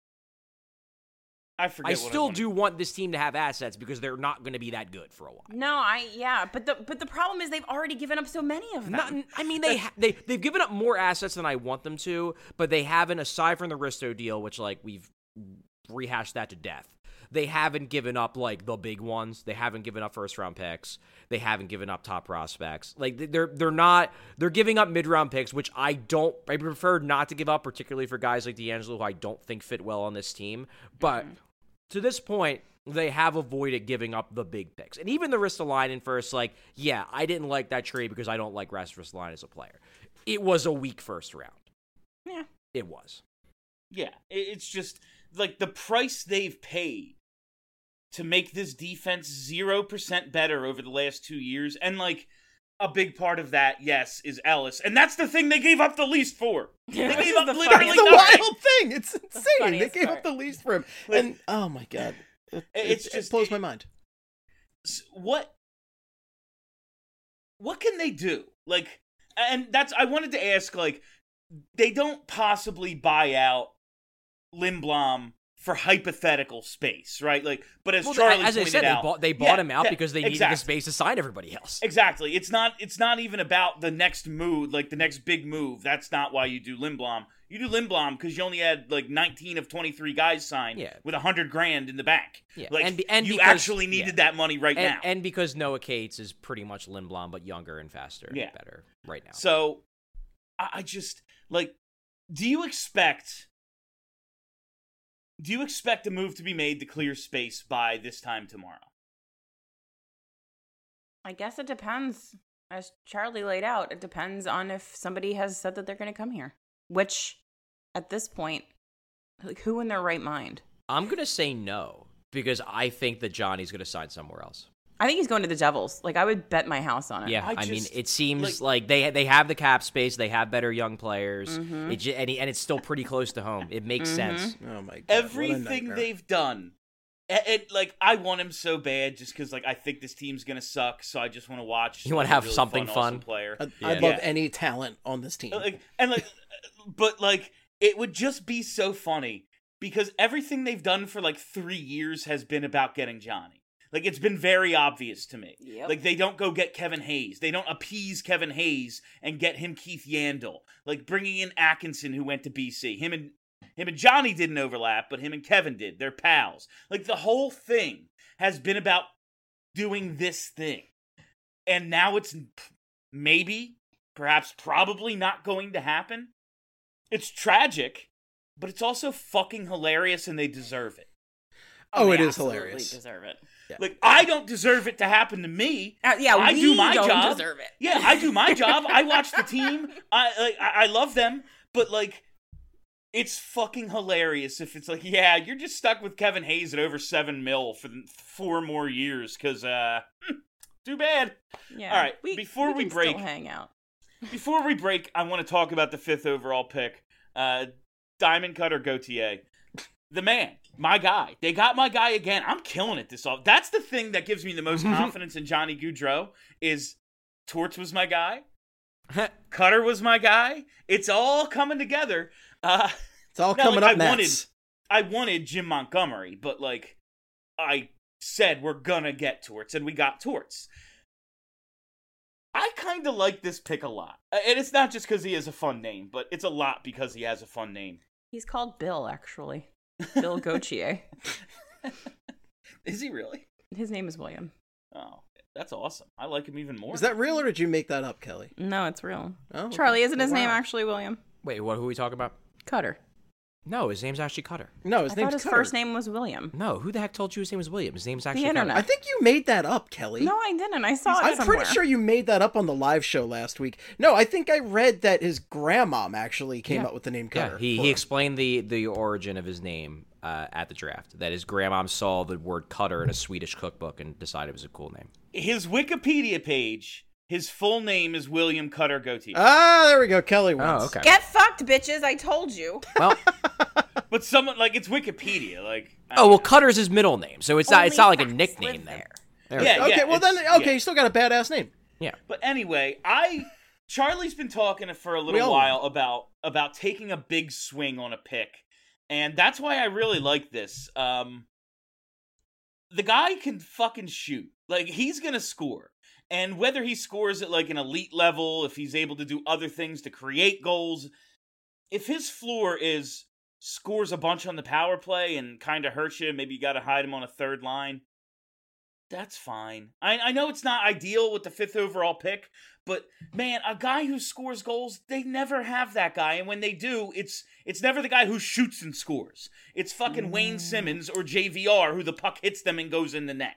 I forget I what still wanted- do want this team to have assets because they're not going to be that good for a while. No, I yeah, but the but the problem is they've already given up so many of them. Not, I mean, they ha- they they've given up more assets than I want them to, but they haven't. Aside from the Risto deal, which like we've rehashed that to death, they haven't given up like the big ones. They haven't given up first round picks. They haven't given up top prospects. Like they're they're not they're giving up mid round picks, which I don't. I prefer not to give up, particularly for guys like D'Angelo, who I don't think fit well on this team. But Mm-hmm. to this point, they have avoided giving up the big picks. And even the Ristolainen first, like, yeah, I didn't like that trade because I don't like Rasmus Ristolainen as a player. It was a weak first round. Yeah. It was. Yeah, it- it's just like the price they've paid to make this defense zero percent better over the last two years. And like a big part of that, yes, is Ellis. And that's the thing they gave up the least for. They This gave is up the literally That's the nothing. wild thing. It's insane. They funniest gave part. up the least for him. Like- and oh my god. It, It's it, just- it blows it- my mind. S- What what can they do? Like, and that's, I wanted to ask, like, they don't possibly buy out Lindblom for hypothetical space, right? Like, but as Well, Charlie as I pointed said, out, they bought, they bought Yeah, him out yeah, because they needed exactly. the space to sign everybody else. Exactly. It's not it's not even about the next move, like the next big move. That's not why you do Lindblom. You do Lindblom because you only had like nineteen of twenty-three guys signed Yeah. with one hundred grand in the bank. Yeah, Like, and be- and you because- actually needed yeah. that money right And, now. and because Noah Cates is pretty much Lindblom, but younger and faster Yeah. and better right now. So, I, I just, like, do you expect... Do you expect a move to be made to clear space by this time tomorrow? I guess it depends. As Charlie laid out, it depends on if somebody has said that they're going to come here. Which, at this point, like, who in their right mind? I'm going to say no because I think that Johnny's going to sign somewhere else. I think he's going to the Devils. Like, I would bet my house on it. Yeah, I I, mean, just- it seems like- like, they they have the cap space, they have better young players, Mm-hmm. it ju- and, he, and it's still pretty close to home. It makes sense. Oh my god. what a Everything nightmare. they've done, it, it, like I want him so bad, just because like I think this team's gonna suck, so I just want to watch. You wanna like, a have really something fun, awesome fun? player. I'd, Yeah. I'd love Yeah. any talent on this team. Like, and like, but like it would just be so funny because everything they've done for like three years has been about getting Johnny. Like, it's been very obvious to me. Yep. Like, they don't go get Kevin Hayes. They don't appease Kevin Hayes and get him Keith Yandel. Like, bringing in Atkinson, who went to B C. Him and him and Johnny didn't overlap, but him and Kevin did. They're pals. Like, the whole thing has been about doing this thing. And now it's maybe, perhaps probably not going to happen. It's tragic, but it's also fucking hilarious, and they deserve it. Oh, they it is absolutely hilarious. Deserve it. Like, I don't deserve it to happen to me. Uh, yeah, I we do my don't job. deserve it. Yeah, I do my job. I watch the team. I like, I I love them, but like, it's fucking hilarious if it's like, yeah, you're just stuck with Kevin Hayes at over seven mil for the four more years, because uh, too bad. Yeah. All right, we, before we can break- still hang out. Before we break, I want to talk about the fifth overall pick, uh, Diamond Cutter Gauthier. The man, my guy. They got my guy again. I'm killing it this off. That's the thing that gives me the most confidence in Johnny Gaudreau is Torts was my guy. Cutter was my guy. It's all coming together. Uh, It's all now, coming like, up I next. wanted, I wanted Jim Montgomery, but like I said, we're gonna get Torts, and we got Torts. I kind of like this pick a lot, and it's not just because he has a fun name, but it's a lot because he has a fun name. He's called Bill, actually. Bill Gauthier. Is he really? His name is William. Oh, that's awesome. I like him even more. Is that real or did you make that up, Kelly? No, it's real. Oh, okay. Charlie, isn't his Oh, name wow. actually William? Wait, what? Who are we talking about? Cutter. No, his name's actually Cutter. No, his I name's thought his Cutter. first name was William. No, who the heck told you his name was William? His name's actually internet. I think you made that up, Kelly. No, I didn't. I saw it I'm somewhere. pretty sure you made that up on the live show last week. No, I think I read that his grandmom actually came Yeah. up with the name Yeah, Cutter. he, for he him. explained the, the origin of his name uh, at the draft. That his grandmom saw the word Cutter in a Swedish cookbook and decided it was a cool name. His Wikipedia page, his full name is William Cutter Gauthier. Ah, there we go. Kelly wins. Oh, okay. Get fucked, bitches. I told you. Well, But someone, like, it's Wikipedia. Like, I oh well, mean, Cutter's his middle name, so it's not it's not like a Only nickname facts then. live There we Yeah, go. Okay, well then, it's- okay, yeah. you still got a badass name. Yeah. But anyway, I Charlie's been talking for a We little all while about about taking a big swing on a pick, and that's why I really like this. Um, the guy can fucking shoot. Like, he's gonna score, and whether he scores at like an elite level, if he's able to do other things to create goals, if his floor is scores a bunch on the power play and kind of hurts you, maybe you got to hide him on a third line. That's fine. I, I know it's not ideal with the fifth overall pick, but man, a guy who scores goals, they never have that guy. And when they do, it's it's never the guy who shoots and scores. It's fucking Wayne Simmons or J V R who the puck hits them and goes in the net.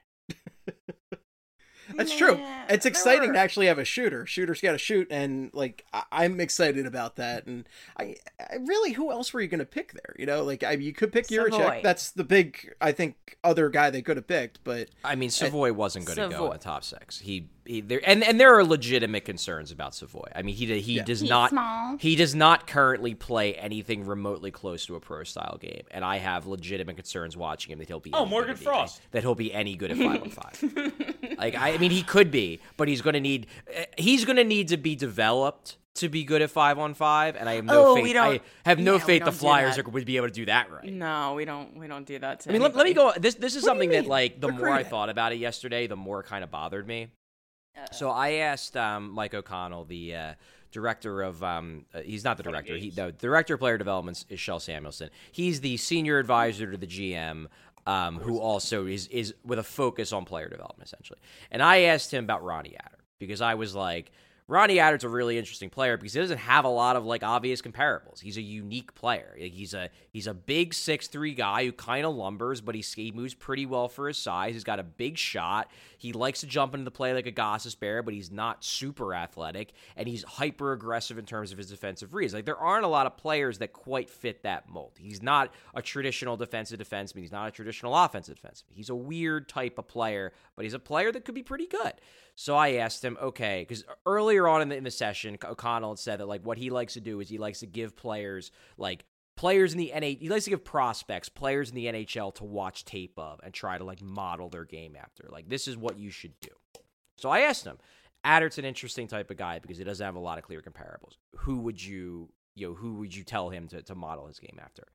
That's true. Yeah, It's there exciting were- to actually have a shooter. Shooter's got to shoot, and like I- I'm excited about that. And I, I really, who else were you going to pick there? You know, like I, you could pick Savoy. Juracek. That's the big, I think, other guy they could have picked. But I mean, Savoy wasn't going to go Savoy. in the top six. He, he there, and and there are legitimate concerns about Savoy. I mean, he he Yeah. does He's not small. he does not currently play anything remotely close to a pro style game, and I have legitimate concerns watching him that he'll be Oh, any Morgan good at Frost. that he'll be any good at five on five. Like I, I mean, he could be, but he's going to need uh, he's going to need to be developed to be good at five on five, and I have no Oh, faith. we don't- I have no yeah, we faith the don't do Flyers that. are, would be able to do that right. No, we don't. We don't do that. To I mean, let, let me anybody. go. This this is What do you something that, mean? like, the more I Recruiting. thought about it yesterday, the more it kind of bothered me. So I asked um, Mike O'Connell, the uh, director of, um, uh, he's not the Fun director, he, Games. the director of player development is Shel Samuelson. He's the senior advisor to the G M, um, who also is is with a focus on player development, essentially. And I asked him about Ronnie Adder, because I was like, Ronnie Atter's a really interesting player because he doesn't have a lot of like obvious comparables. He's a unique player. Like, he's a he's a big six three guy who kind of lumbers, but he, he moves pretty well for his size. He's got a big shot. He likes to jump into the play like a Goss's Bear, but he's not super athletic, and he's hyper aggressive in terms of his defensive reads. Like, there aren't a lot of players that quite fit that mold. He's not a traditional defensive defenseman. He's not a traditional offensive defenseman. He's a weird type of player, but he's a player that could be pretty good. So I asked him, okay, because earlier on in the, in the session, O'Connell had said that like what he likes to do is he likes to give players, like players in the N H L, he likes to give prospects, players in the N H L to watch tape of and try to like model their game after. Like, this is what you should do. So I asked him, Adder's an interesting type of guy because he doesn't have a lot of clear comparables. Who would you, you know, who would you tell him to, to model his game after?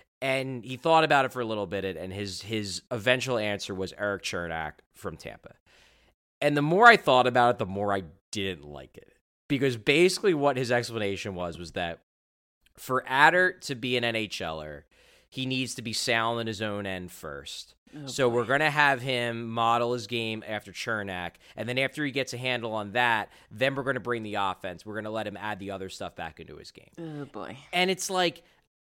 And he thought about it for a little bit, and his his eventual answer was Erik Cernak from Tampa. And the more I thought about it, the more I didn't like it. Because basically what his explanation was, was that for Adder to be an NHLer, he needs to be sound in his own end first. Oh, so boy. We're going to have him model his game after Cernak, and then after he gets a handle on that, then we're going to bring the offense. We're going to let him add the other stuff back into his game. Oh, boy. And it's like,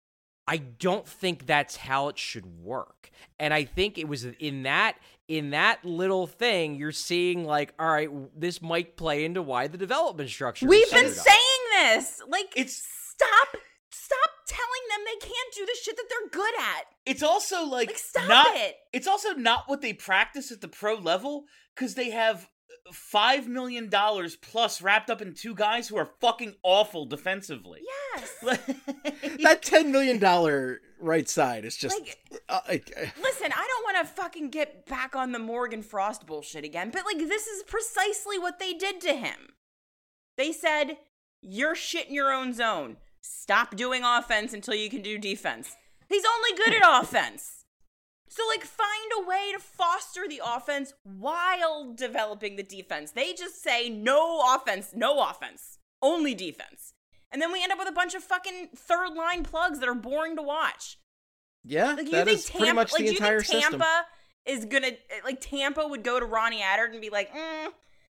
I don't think that's how it should work. And I think it was in that in that little thing, you're seeing like, all right, this might play into why the development structure We've is been set up. saying this. Like, It's- stop stop telling them they can't do the shit that they're good at. It's also like, Like, stop not, it. It's also not what they practice at the pro level, because they have five million dollars plus wrapped up in two guys who are fucking awful defensively. Yes. That ten million dollars right side is just... Like, uh, I- Listen, I don't want to fucking get back on the Morgan Frost bullshit again, but like, this is precisely what they did to him. They said, you're shit in your own zone. Stop doing offense until you can do defense. He's only good at offense. So, like, find a way to foster the offense while developing the defense. They just say, no offense, no offense, only defense. And then we end up with a bunch of fucking third line plugs that are boring to watch. yeah, Like, you that think is Tampa, pretty much like, the do you entire think Tampa system. is gonna, like, Tampa would go to Ronnie Adder and be like, mm,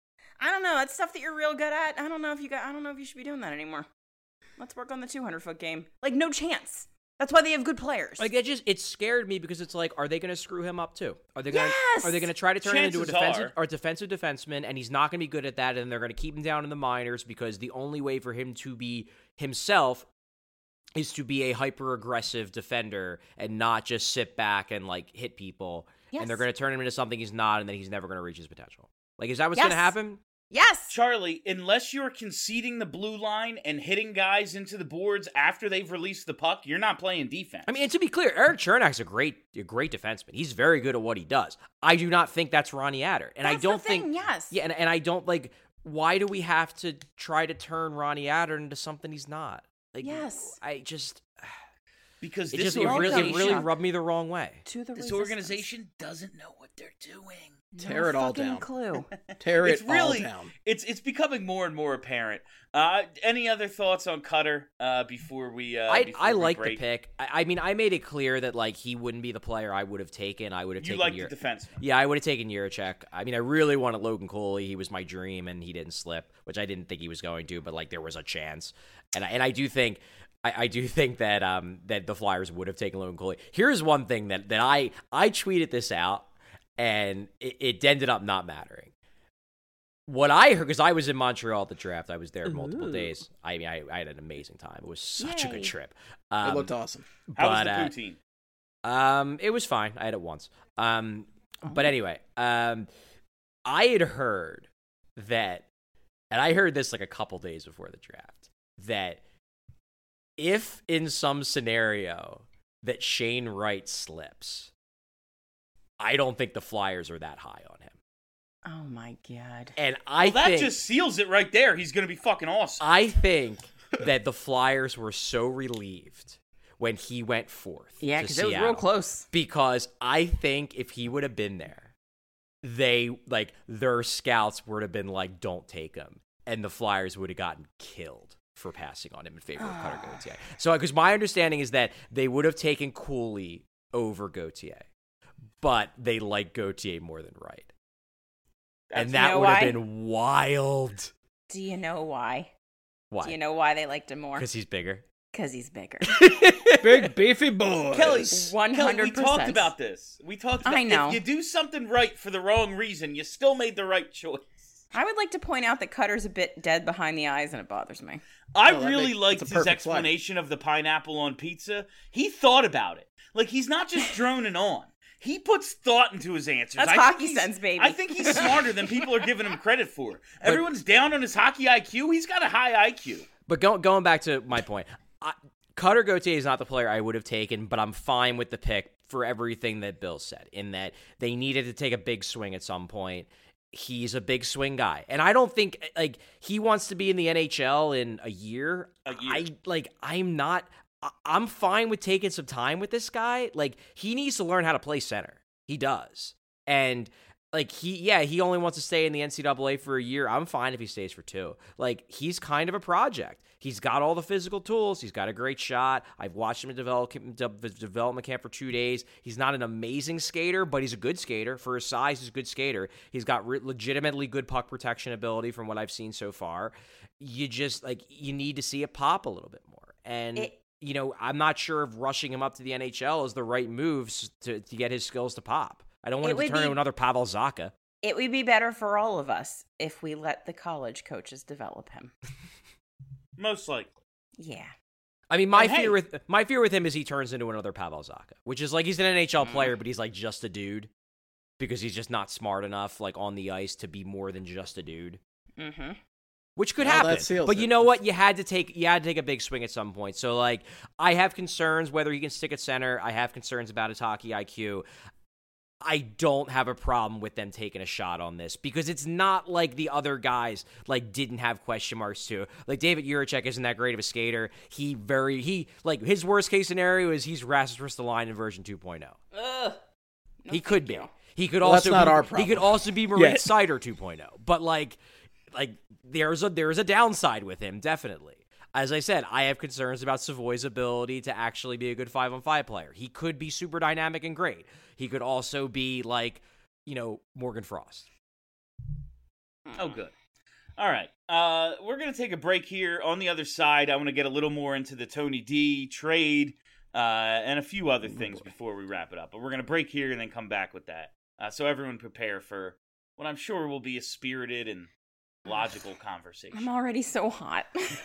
I don't know, that's stuff that you're real good at. I don't know if you got, I don't know if you should be doing that anymore. Let's work on the two hundred foot game. Like, no chance. That's why they have good players. Like, it just it scared me because it's like, are they going to screw him up too? Are they going to Yes! are they going to try to turn Chances him into a defensive are. or defensive defenseman, and he's not going to be good at that, and they're going to keep him down in the minors because the only way for him to be himself is to be a hyper aggressive defender and not just sit back and like hit people. Yes. And they're going to turn him into something he's not, and then he's never going to reach his potential. Like, is that what's Yes. going to happen? Yes. Charlie, unless you're conceding the blue line and hitting guys into the boards after they've released the puck, you're not playing defense. I mean, and to be clear, Erik Chernak's a great, a great defenseman. He's very good at what he does. I do not think that's Ronnie Adder, and That's I don't the thing, think. yes. Yeah, and, and I don't like. Why do we have to try to turn Ronnie Adder into something he's not? Like, Yes. I just. because It this just it really, it organization, really rubbed me the wrong way. To the this resistance. organization doesn't know what they're doing. Tear No it all fucking down. Clue. Tear it It's really, all down. it's it's becoming more and more apparent. Uh, any other thoughts on Cutter uh, before we? Uh, I before I we like the break? pick. I, I mean, I made it clear that like he wouldn't be the player I would have taken. I would have You taken like Ur- the defenseman. Yeah, I would have taken Juracek. I mean, I really wanted Logan Cooley. He was my dream, and he didn't slip, which I didn't think he was going to. But like, there was a chance, and I, and I do think. I, I do think that um that the Flyers would have taken Logan Cooley. Here's one thing that, that I I tweeted this out, and it, it ended up not mattering. What I heard, because I was in Montreal at the draft, I was there multiple Ooh. days. I mean, I, I had an amazing time. It was such a Yay. good trip. It Um, looked awesome. How was but, the uh, poutine? Um, it was fine. I had it once. Um, but anyway, um, I had heard that, and I heard this like a couple days before the draft, that if in some scenario that Shane Wright slips, I don't think the Flyers are that high on him. Oh my god. And I Well, that think just seals it right there. He's going to be fucking awesome. I think that the Flyers were so relieved when he went fourth. Yeah, to because it was real Seattle. close. Because I think if he would have been there, they, like, their scouts would have been like, don't take him. And the Flyers would have gotten killed for passing on him in favor of Cutter Gauthier. So, because my understanding is that they would have taken Cooley over Gauthier, but they like Gauthier more than Wright. That's- And that You know would have why? been wild. Do you know why? Why? Do you know why they liked him more? Because he's bigger. Because he's bigger. Big beefy boy. Kelly, one hundred percent. Kelly, we talked about this. We talked about I know. If you do something right for the wrong reason, you still made the right choice. I would like to point out that Cutter's a bit dead behind the eyes, and it bothers me. I Oh, that really makes- liked it's a his perfect flag. explanation of the pineapple on pizza. He thought about it. Like, he's not just droning on. He puts thought into his answers. That's I think hockey he's- sense, baby. I think he's smarter than people are giving him credit for. Everyone's down on his hockey I Q. He's got a high I Q. But go, going back to my point, I, Cutter Gauthier is not the player I would have taken, but I'm fine with the pick for everything that Bill said, in that they needed to take a big swing at some point. He's a big swing guy. And I don't think, like, he wants to be in the N H L in a year. A year. I, like, I'm not, I- I'm fine with taking some time with this guy. Like, he needs to learn how to play center. He does. And, like, he, yeah, he only wants to stay in the N C double A for a year. I'm fine if he stays for two. Like, he's kind of a project. He's got all the physical tools. He's got a great shot. I've watched him in develop, de- development camp for two days. He's not an amazing skater, but he's a good skater. For his size, he's a good skater. He's got re- legitimately good puck protection ability from what I've seen so far. You just, like, you need to see it pop a little bit more. And, It- you know, I'm not sure if rushing him up to the N H L is the right moves to, to get his skills to pop. I don't want It him to would turn be- into another Pavel Zacha. It would be better for all of us if we let the college coaches develop him. Most likely. Yeah. I mean, my And hey- fear with my fear with him is he turns into another Pavel Zacha, which is like he's an N H L Mm. player, but he's like just a dude because he's just not smart enough, like on the ice, to be more than just a dude. Mm-hmm. Which could Well, that happen, seals but it. you know what? You had to take you had to take a big swing at some point. So, like, I have concerns whether he can stick at center. I have concerns about his hockey I Q. I don't have a problem with them taking a shot on this because it's not like the other guys like didn't have question marks too. Like David Jiricek isn't that great of a skater. He very he like his worst case scenario is he's Rasmus Ristolainen in version two point oh. Ugh. No, he could thank be. you. He could Well, that's also not be, our he problem. could also be Maurice Yet. Sider two point oh. But like like there's a there's a downside with him definitely. As I said, I have concerns about Savoy's ability to actually be a good five on five player. He could be super dynamic and great. He could also be like, you know, Morgan Frost. Oh, good. All right. Uh, we're going to take a break here. On the other side, I want to get a little more into the Tony D trade uh, and a few other things before we wrap it up. But we're going to break here and then come back with that. Uh, so everyone prepare for what I'm sure will be a spirited and logical conversation. I'm already so hot.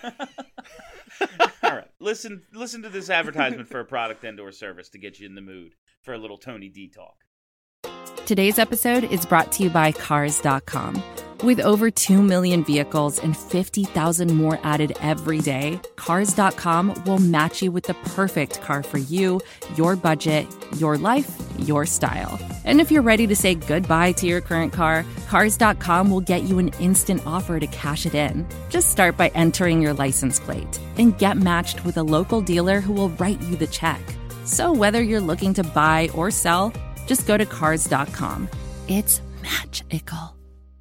All right. Listen, listen to this advertisement for a product and or service to get you in the mood for a little Tony D talk. Today's episode is brought to you by Cars dot com. With over two million vehicles and fifty thousand more added every day, Cars dot com will match you with the perfect car for you, your budget, your life, your style. And if you're ready to say goodbye to your current car, Cars dot com will get you an instant offer to cash it in. Just start by entering your license plate and get matched with a local dealer who will write you the check. So whether you're looking to buy or sell, just go to Cars dot com. It's magical.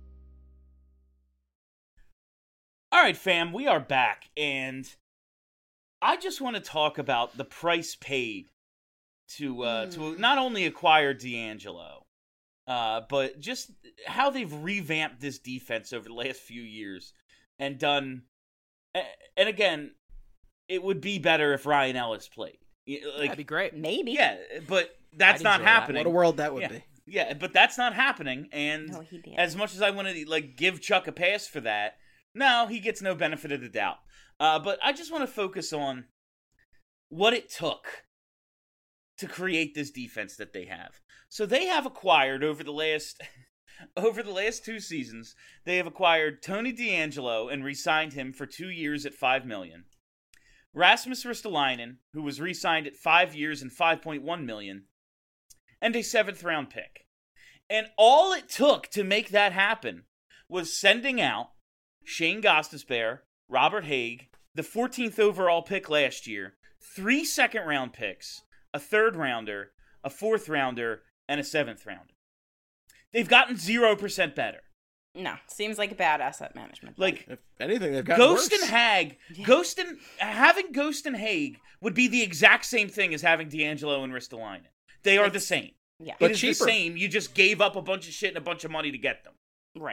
All right, fam, we are back, and I just want to talk about the price paid to uh, to not only acquire D'Angelo, uh, but just how they've revamped this defense over the last few years and done. And again, it would be better if Ryan Ellis played. Like, That'd be great. Maybe. yeah, but that's I'd not enjoy that. happening. What a world that would yeah. be. Yeah, but that's not happening, and No, he did. as much as I want to like give Chuck a pass for that, no, he gets no benefit of the doubt. Uh, but I just want to focus on what it took to create this defense that they have. So they have acquired over the last over the last two seasons, they have acquired Tony D'Angelo and re-signed him for two years at five million dollars. Rasmus Ristolainen, who was re-signed at five years and five point one million dollars, and a seventh round pick. And all it took to make that happen was sending out Shane Gostisbehere, Robert Haig, the fourteenth overall pick last year, three second round picks, a third rounder, a fourth rounder, and a seventh rounder. They've gotten zero percent better. No, seems like a bad asset management. Like, If anything, they've gotten Ghost worse. and Hag, Ghost and having Ghost and Haig would be the exact same thing as having D'Angelo and Ristolainen. They are the same. yeah, It But is cheaper. the same. You just gave up a bunch of shit and a bunch of money to get them. right.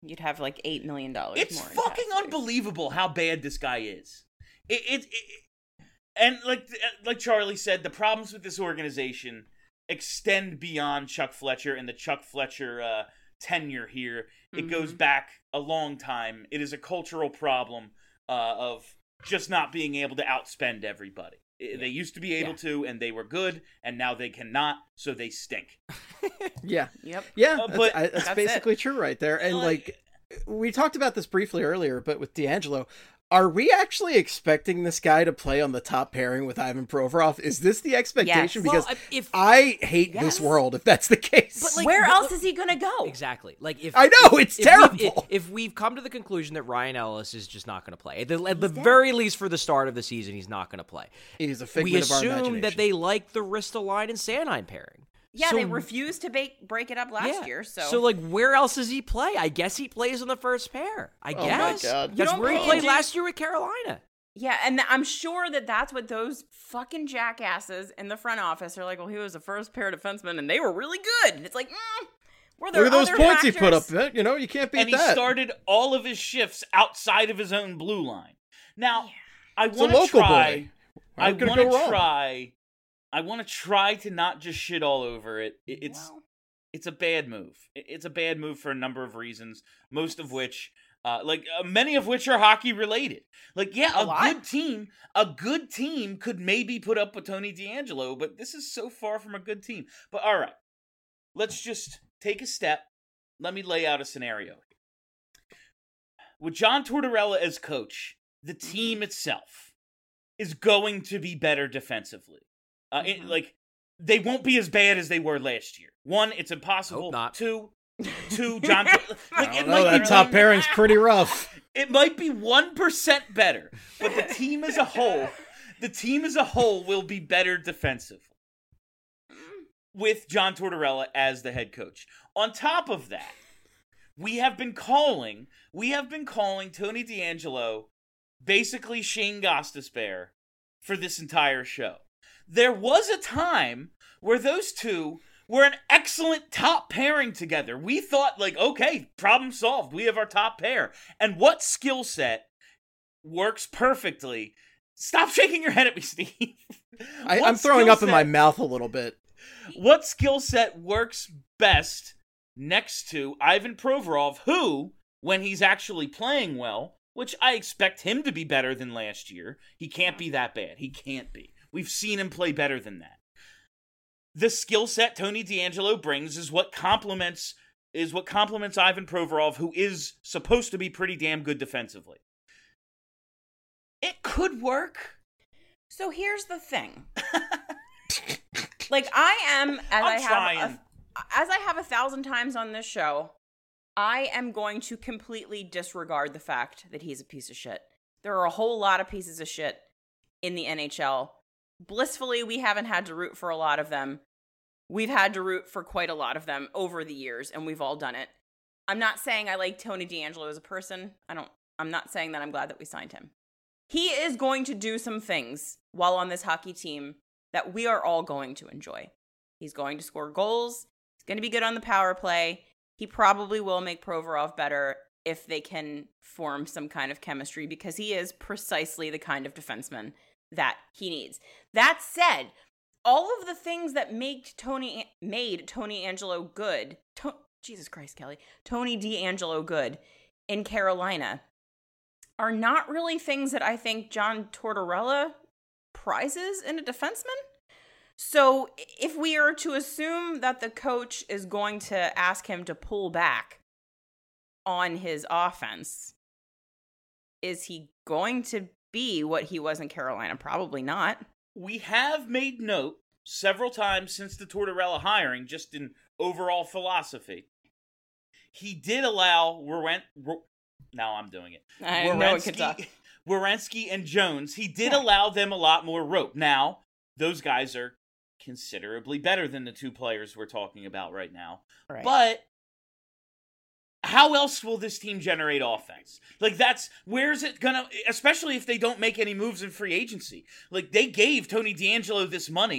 You'd have like eight million dollars It's more. in fucking taxes. unbelievable how bad this guy is. It, it, it, and like like Charlie said, the problems with this organization extend beyond Chuck Fletcher and the Chuck Fletcher uh, tenure here. It Mhm. goes back a long time. It is a cultural problem uh, of just not being able to outspend everybody. I- They used to be able Yeah. to, and they were good, and now they cannot, so they stink. Yeah. Yep. Yeah, Uh, that's, but- I, that's That's it. basically true right there. And Like- like, we talked about this briefly earlier, but with D'Angelo, are we actually expecting this guy to play on the top pairing with Ivan Provorov? Is this the expectation? Yes. Because Well, if I hate this Yes. world if that's the case. But, like, Where what- else is he gonna go? Exactly. Like if I know, if- it's if we've- terrible. If, if we've come to the conclusion that Ryan Ellis is just not going to play, at the, at the very least for the start of the season, he's not going to play. He's a We figment of our assume imagination. that they like the Ristolainen and Sanheim pairing. Yeah, So- they refused to bake, break it up last Yeah. year. So, So like, where else does he play? I guess he plays on the first pair. I Oh my guess. God. You That's don't where he pay played a last year with Carolina. yeah, and th- I'm sure that that's what those fucking jackasses in the front office are like. Well, he was the first pair defenseman, and they were really good. And it's like, mm, were there Look at those other points he put up. factors? You know, you can't beat And he that. started all of his shifts outside of his own blue line. Now, I a want to local try. boy. I How could it want to go wrong? try. I want to try to not just shit all over it. It- It's Well, it's a bad move. It- It's a bad move for a number of reasons. Most of which, uh, like uh, many of which are hockey related. Like, yeah, A a, lot. good team, a good team could maybe put up with Tony D'Angelo, but this is so far from a good team. But all right, let's just take a step. Let me lay out a scenario. With John Tortorella as coach, the team itself is going to be better defensively. Uh, it- Mhm. like, they won't be as bad as they were last year. One, it's impossible. Hope not. Two, two, John. like, I it don't know, might that be top one- pairing's pretty rough. It might be one percent better, but the team as a whole, the team as a whole will be better defensively with John Tortorella as the head coach. On top of that, we have been calling, we have been calling Tony D'Angelo basically Shane Gostisbehere for this entire show. There was a time where those two were an excellent top pairing together. We thought, like, okay, problem solved. We have our top pair. And what skill set works perfectly? Stop shaking your head at me, Steve. I, What I'm throwing skill up in my set- mouth a little bit. What skill set works best next to Ivan Provorov, who, when he's actually playing well, which I expect him to be better than last year, he can't be that bad. He can't be. We've seen him play better than that. The skill set Tony D'Angelo brings is what complements is what complements Ivan Provorov, who is supposed to be pretty damn good defensively. It could work. so here's the thing. Like I am, as I'm I have, trying. a, as I have a thousand times on this show, I am going to completely disregard the fact that he's a piece of shit. There are a whole lot of pieces of shit in the N H L. Blissfully, we haven't had to root for a lot of them. We've had to root for quite a lot of them over the years, and we've all done it. I'm not saying I like Tony D'Angelo as a person. I don't. I'm not saying that I'm glad that we signed him. He is going to do some things while on this hockey team that we are all going to enjoy. He's going to score goals. He's going to be good on the power play. He probably will make Provorov better if they can form some kind of chemistry, because he is precisely the kind of defenseman that he needs. That said, all of the things that make Tony made Tony Angelo good, to, Jesus Christ, Kelly, Tony D'Angelo good in Carolina are not really things that I think John Tortorella prizes in a defenseman. So if we are to assume that the coach is going to ask him to pull back on his offense, is he going to be what he was in Carolina? Probably not. We have made note several times since the Tortorella hiring, just in overall philosophy. He did allow Weren- Wer- now I'm doing it. I know it could talk. Werenski and Jones. He did Yeah. allow them a lot more rope. Now, those guys are considerably better than the two players we're talking about right now. Right. But how else will this team generate offense? Like, that's, where's it gonna, especially if they don't make any moves in free agency. Like, they gave Tony D'Angelo this money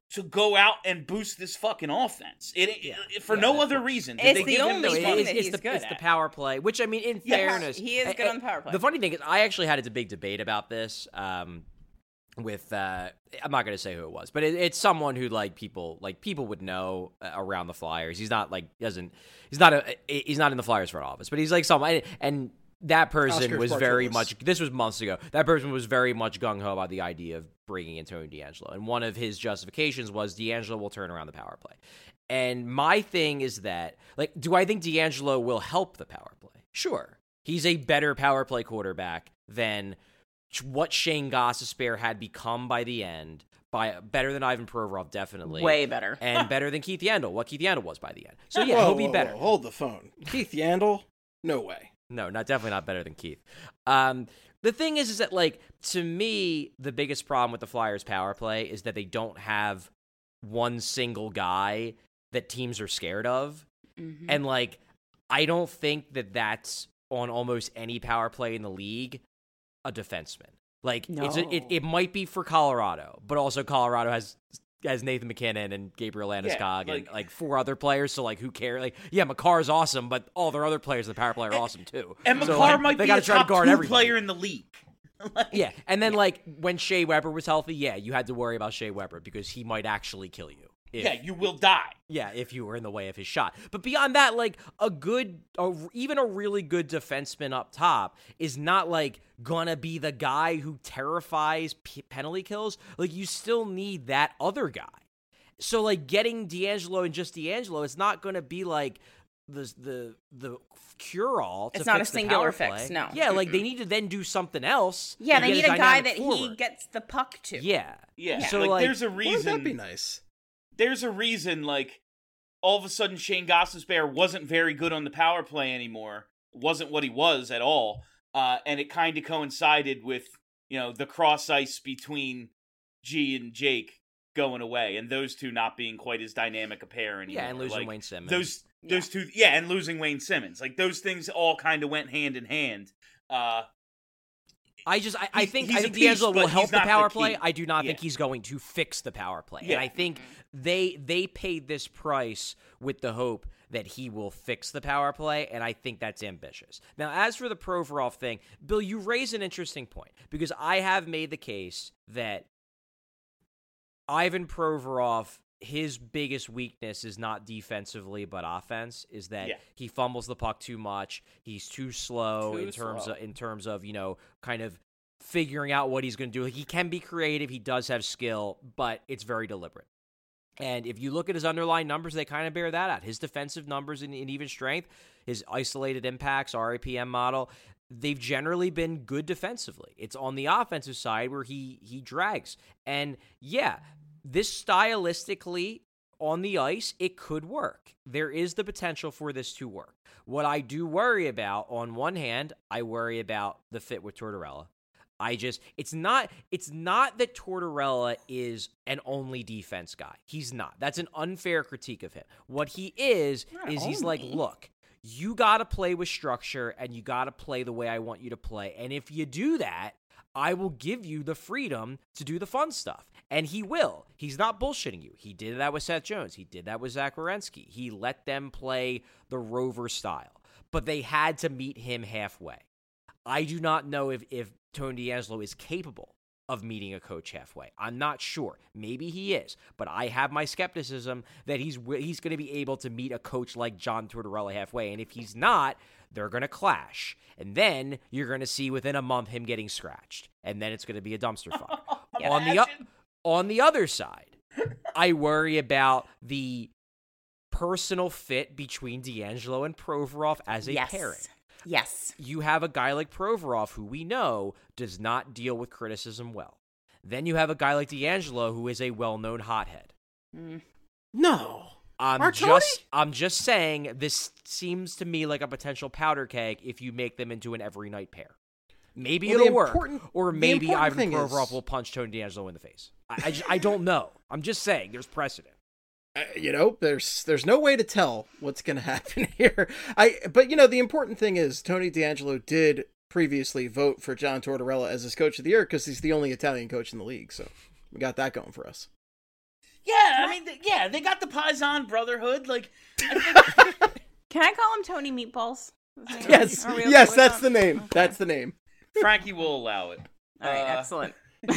to go out and boost this fucking offense. It, Yeah. it for Yeah, no of other course. reason. Did It's they the give him only this thing money? that it's, he's the, good it's the at. power play, which I mean, in Yes, fairness, he is I- good I- on the power play. The funny thing is, I actually had a big debate about this um, with. Uh, I'm not going to say who it was, but it, it's someone who like people like people would know uh, around the Flyers. He's not like doesn't. He's not a. He's not in the Flyers front office, but he's like someone and. That person Oscar was very Spartulis. much. This was months ago. That person was very much gung ho about the idea of bringing in Tony DeAngelo, and one of his justifications was DeAngelo will turn around the power play. And my thing is that, like, do I think DeAngelo will help the power play? Sure, he's a better power play quarterback than what Shane Gostisbehere had become by the end. By better than Ivan Provorov, definitely. Way better. And better than Keith Yandel. What Keith Yandel was by the end. So yeah, Whoa, he'll be whoa, better. whoa, hold the phone. Keith Yandel? No way. No, not definitely not better than Keith. Um, the thing is, is that like to me, the biggest problem with the Flyers' power play is that they don't have one single guy that teams are scared of, Mhm. and like I don't think that that's on almost any power play in the league a defenseman. Like it's a, it, No. it might be for Colorado, but also Colorado has. Has Nathan McKinnon and Gabriel Landeskog Yeah, and like- like four other players, so like who cares? Like, yeah, McCarr's awesome, but all their other players in the power play are awesome too. And So, McCarr like, might they be gotta a try top to guard two everybody. player in the league. Like, Yeah, and then like when Shea Weber was healthy, yeah, you had to worry about Shea Weber because he might actually kill you. If, yeah, you will die. yeah, if you were in the way of his shot. But beyond that, like a good, a, even a really good defenseman up top is not like gonna be the guy who terrifies p- penalty kills. Like you still need that other guy. So like getting DeAngelo and just DeAngelo, it's not gonna be like the the the cure all. It's not a singular fix, no. Yeah, like they need to then do something else. Yeah, to they get need a guy dynamic that he forward. gets the puck to. Yeah. Yeah, So, like, like, there's a Wouldn't reason. that be nice? There's a reason. Like all of a sudden, Shane Gostisbehere wasn't very good on the power play anymore. Wasn't what he was at all. Uh, and it kind of coincided with you know the cross ice between G and Jake going away, and those two not being quite as dynamic a pair anymore. Yeah, and losing Like, Wayne Simmons. Those those two, yeah, and losing Wayne Simmons. Like those things all kind of went hand in hand. Uh, I just, I, I He's- think, he's I a think piece, D'Angelo will but help he's the not the power key. play. I do not think Yeah. he's going to fix the power play. Yeah. And I think they they paid this price with the hope that he will fix the power play, and I think that's ambitious. Now, as for the Provorov thing, Bill, you raise an interesting point because I have made the case that Ivan Provorov, his biggest weakness is not defensively but offense, is that Yeah. he fumbles the puck too much. He's too slow Too in terms slow. of in terms of, you know, kind of figuring out what he's going to do. Like, he can be creative, he does have skill, but it's very deliberate. And if you look at his underlying numbers, they kind of bear that out. His defensive numbers in, in even strength, his isolated impacts, R A P M model, they've generally been good defensively. It's on the offensive side where he he drags. And yeah, this stylistically on the ice, it could work. There is the potential for this to work. What I do worry about, on one hand, I worry about the fit with Tortorella. I just, it's not, it's not that Tortorella is an only defense guy. He's not. That's an unfair critique of him. What he is, Not is he's like, only. look, you got to play with structure and you got to play the way I want you to play. And if you do that, I will give you the freedom to do the fun stuff. And he will. He's not bullshitting you. He did that with Seth Jones. He did that with Zach Werenski. He let them play the Rover style. But they had to meet him halfway. I do not know if, if Tony DeAngelo is capable of meeting a coach halfway. I'm not sure. Maybe he is. But I have my skepticism that he's he's going to be able to meet a coach like John Tortorella halfway. And if he's not, they're going to clash. And then you're going to see within a month him getting scratched. And then it's going to be a dumpster fire. on the o- on the other side, I worry about the personal fit between DeAngelo and Provorov as a yes. pairing. Yes. You have a guy like Provorov who we know does not deal with criticism well. Then you have a guy like DeAngelo who is a well-known hothead. No. I'm Martoni? just I'm just saying this seems to me like a potential powder keg if you make them into an every night pair. Maybe Well, the it'll work, important- or the maybe important Ivan thing Provorov is- will punch Tony DeAngelo in the face. I I, just, I don't know. I'm just saying there's precedent. Uh, you know, there's there's no way to tell what's going to happen here. I but you know the important thing is Tony DeAngelo did previously vote for John Tortorella as his coach of the year because he's the only Italian coach in the league. So we got that going for us. Yeah, I mean, th- yeah, they got the Paisan Brotherhood. Like, I think Can I call him Tony Meatballs? Yes, Are we okay yes, with that's that? the name. Okay. That's the name. Frankie will allow it. All right, Uh, excellent.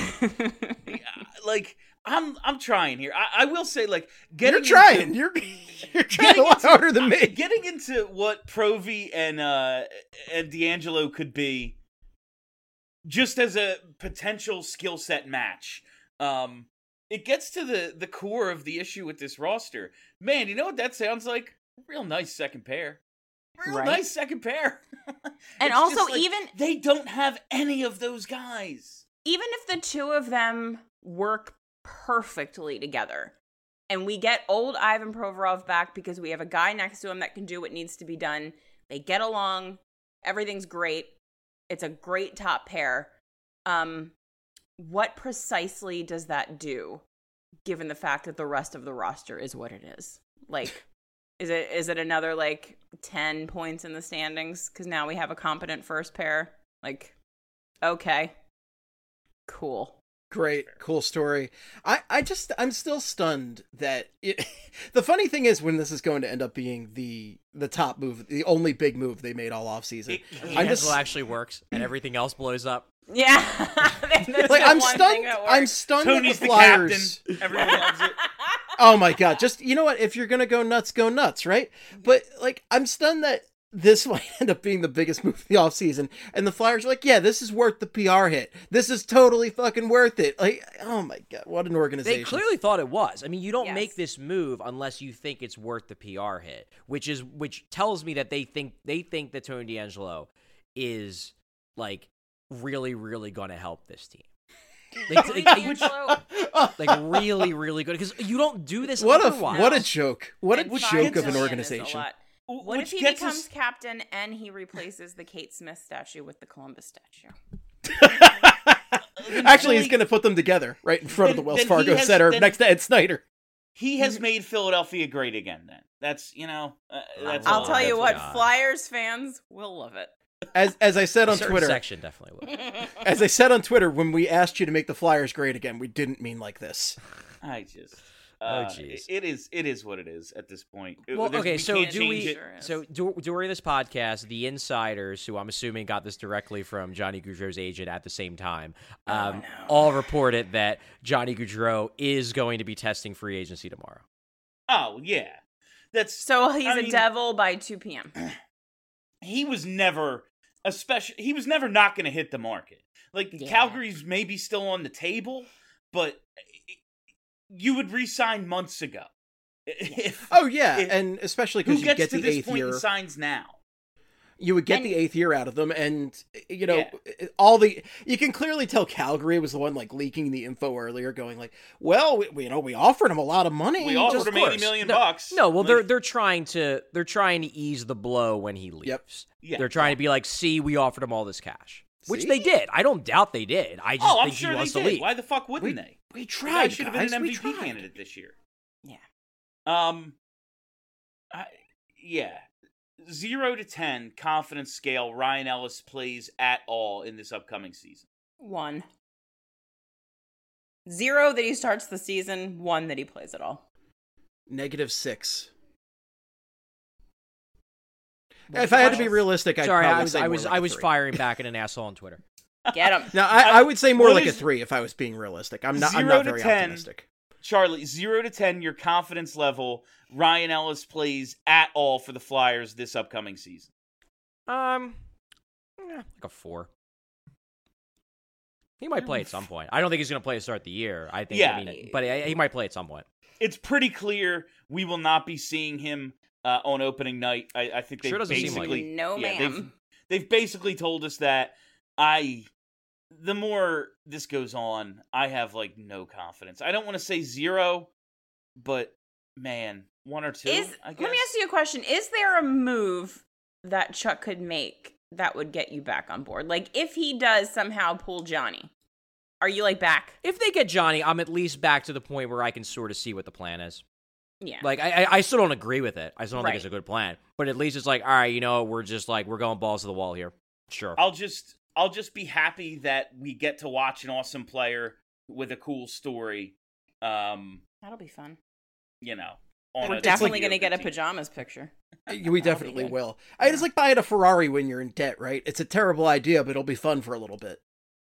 Like, I'm I'm trying here. I, I will say, like, getting You're trying. Into, You're you're trying a lot into- harder than me. Getting into what Provy and uh and D'Angelo could be, just as a potential skill set match. Um, it gets to the the core of the issue with this roster. Man, you know what that sounds like? Real nice second pair. Real Right. nice second pair. And It's also, just like, even- they don't have any of those guys. Even if the two of them work perfectly together, and we get old Ivan Provorov back because we have a guy next to him that can do what needs to be done, they get along, everything's great, it's a great top pair. Um, what precisely does that do, given the fact that the rest of the roster is what it is? Like, is it is it another, like, ten points in the standings? Because now we have a competent first pair? Like, okay. Cool. Great, cool story. I, I just, I'm still stunned that it, the funny thing is when this is going to end up being the the top move, the only big move they made all off season. It- I'm D'Angelo just actually works, and everything else blows up. Yeah. That's like the I'm one thing stunned. that I'm works. stunned Tony's that the the Flyers. captain. Everyone loves it. Oh my god! Just you know what? If you're gonna go nuts, go nuts, right? But like, I'm stunned that this might end up being the biggest move of the offseason. And the Flyers are like, yeah, this is worth the P R hit. This is totally fucking worth it. Like, oh my God, what an organization. They clearly thought it was. I mean, you don't Yes. make this move unless you think it's worth the P R hit, which is which tells me that they think they think that Tony D'Angelo is like really, really going to help this team. Like, Tony like, D'Angelo like really, really good because you don't do this What a otherwise. what a joke. What a and joke five of an million is a organization. lot. What Which if he gets becomes us- captain and he replaces the Kate Smith statue with the Columbus statue? Actually, he's Philly- going to put them together right in front of the Then- Wells then he Fargo has- Center then- next to Ed Snyder. He has made Philadelphia great again. Then that's you know uh, that's I'll all. tell you that's what, God. Flyers fans will love it. As as I said A on certain Twitter, section definitely would. as I said on Twitter, when we asked you to make the Flyers great again, we didn't mean like this. I just. Oh, Uh, jeez. it is. It is what it is at this point. It- Well, there's- okay, we so can't do change we? it. Sure is. So du- during this podcast, the insiders, who I'm assuming got this directly from Johnny Gaudreau's agent at the same time, um, all reported that Johnny Gaudreau is going to be testing free agency tomorrow. Oh yeah, that's So he's I a mean- devil by two p.m. he was never especially he was never not going to hit the market. Like Yeah. Calgary's maybe still on the table, but you would re-sign months ago. If, Oh yeah, If- and especially who because you gets get to the this eighth point year. and signs now? You would get And- the eighth year out of them, and you know Yeah. all the. You can clearly tell Calgary was the one like leaking the info earlier, going like, "Well, we, we you know we offered him a lot of money. We just- offered him eighty million no, bucks. No, well, Like, they're they're trying to they're trying to ease the blow when he leaves. Yep. Yeah. They're trying to be like, see, we offered him all this cash, which See? they did. I don't doubt they did. I just Oh, I'm think sure he they wants did. to leave. Why the fuck wouldn't We- they? We The guy tried, should have guys. been an we M V P tried. candidate this year. Yeah. Um, I, yeah, zero to ten confidence scale. Ryan Ellis plays at all in this upcoming season. One. Zero that he starts the season, one that he plays at all. Negative six. If I had to be realistic, I'd Sorry, probably I was say I more was like I a was three. firing back at an asshole on Twitter. Get him. Now, I, I would say more What like is- a three if I was being realistic. I'm not. I'm Zero not to very ten. optimistic. Charlie, zero to ten, your confidence level. Ryan Ellis plays at all for the Flyers this upcoming season. Um, eh, like a four. He might play at some point. I don't think he's going to play to start the year. I think. Yeah. I mean, but he he might play at some point. It's pretty clear we will not be seeing him uh, on opening night. I, I think they Sure doesn't seem like basically it. No, yeah, ma'am. They've, they've basically told us that. I the more this goes on, I have like no confidence. I don't want to say zero, but man, one or two. Is I guess. let me ask you a question. Is there a move that Chuck could make that would get you back on board? Like if he does somehow pull Johnny, are you like back? If they get Johnny, I'm at least back to the point where I can sort of see what the plan is. Yeah. Like, I, I I still don't agree with it. I still don't Right. think it's a good plan. But at least it's like, all right, you know, we're just like, we're going balls to the wall here. Sure. I'll just I'll just be happy that we get to watch an awesome player with a cool story. Um, That'll be fun. You know, on We're a definitely video going to get a team. pajamas picture. We definitely good. will. I It's like buying a Ferrari when you're in debt, right? It's a terrible idea, but it'll be fun for a little bit.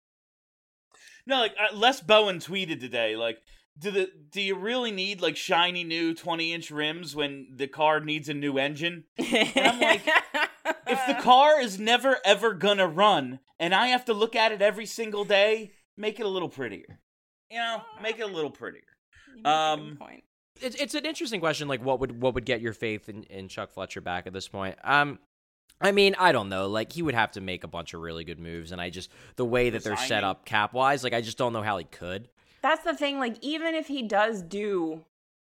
No, like uh, Les Bowen tweeted today, like, do the do you really need like shiny new twenty inch rims when the car needs a new engine? And I'm like, if the car is never ever gonna run, and I have to look at it every single day, make it a little prettier. You know, make it a little prettier. You make a Um, good point. It's it's an interesting question. Like, what would what would get your faith in, in Chuck Fletcher back at this point? Um, I mean, I don't know. Like, he would have to make a bunch of really good moves, and I just the way that they're set Resigning. up cap wise, like, I just don't know how he could. That's the thing. Like, even if he does do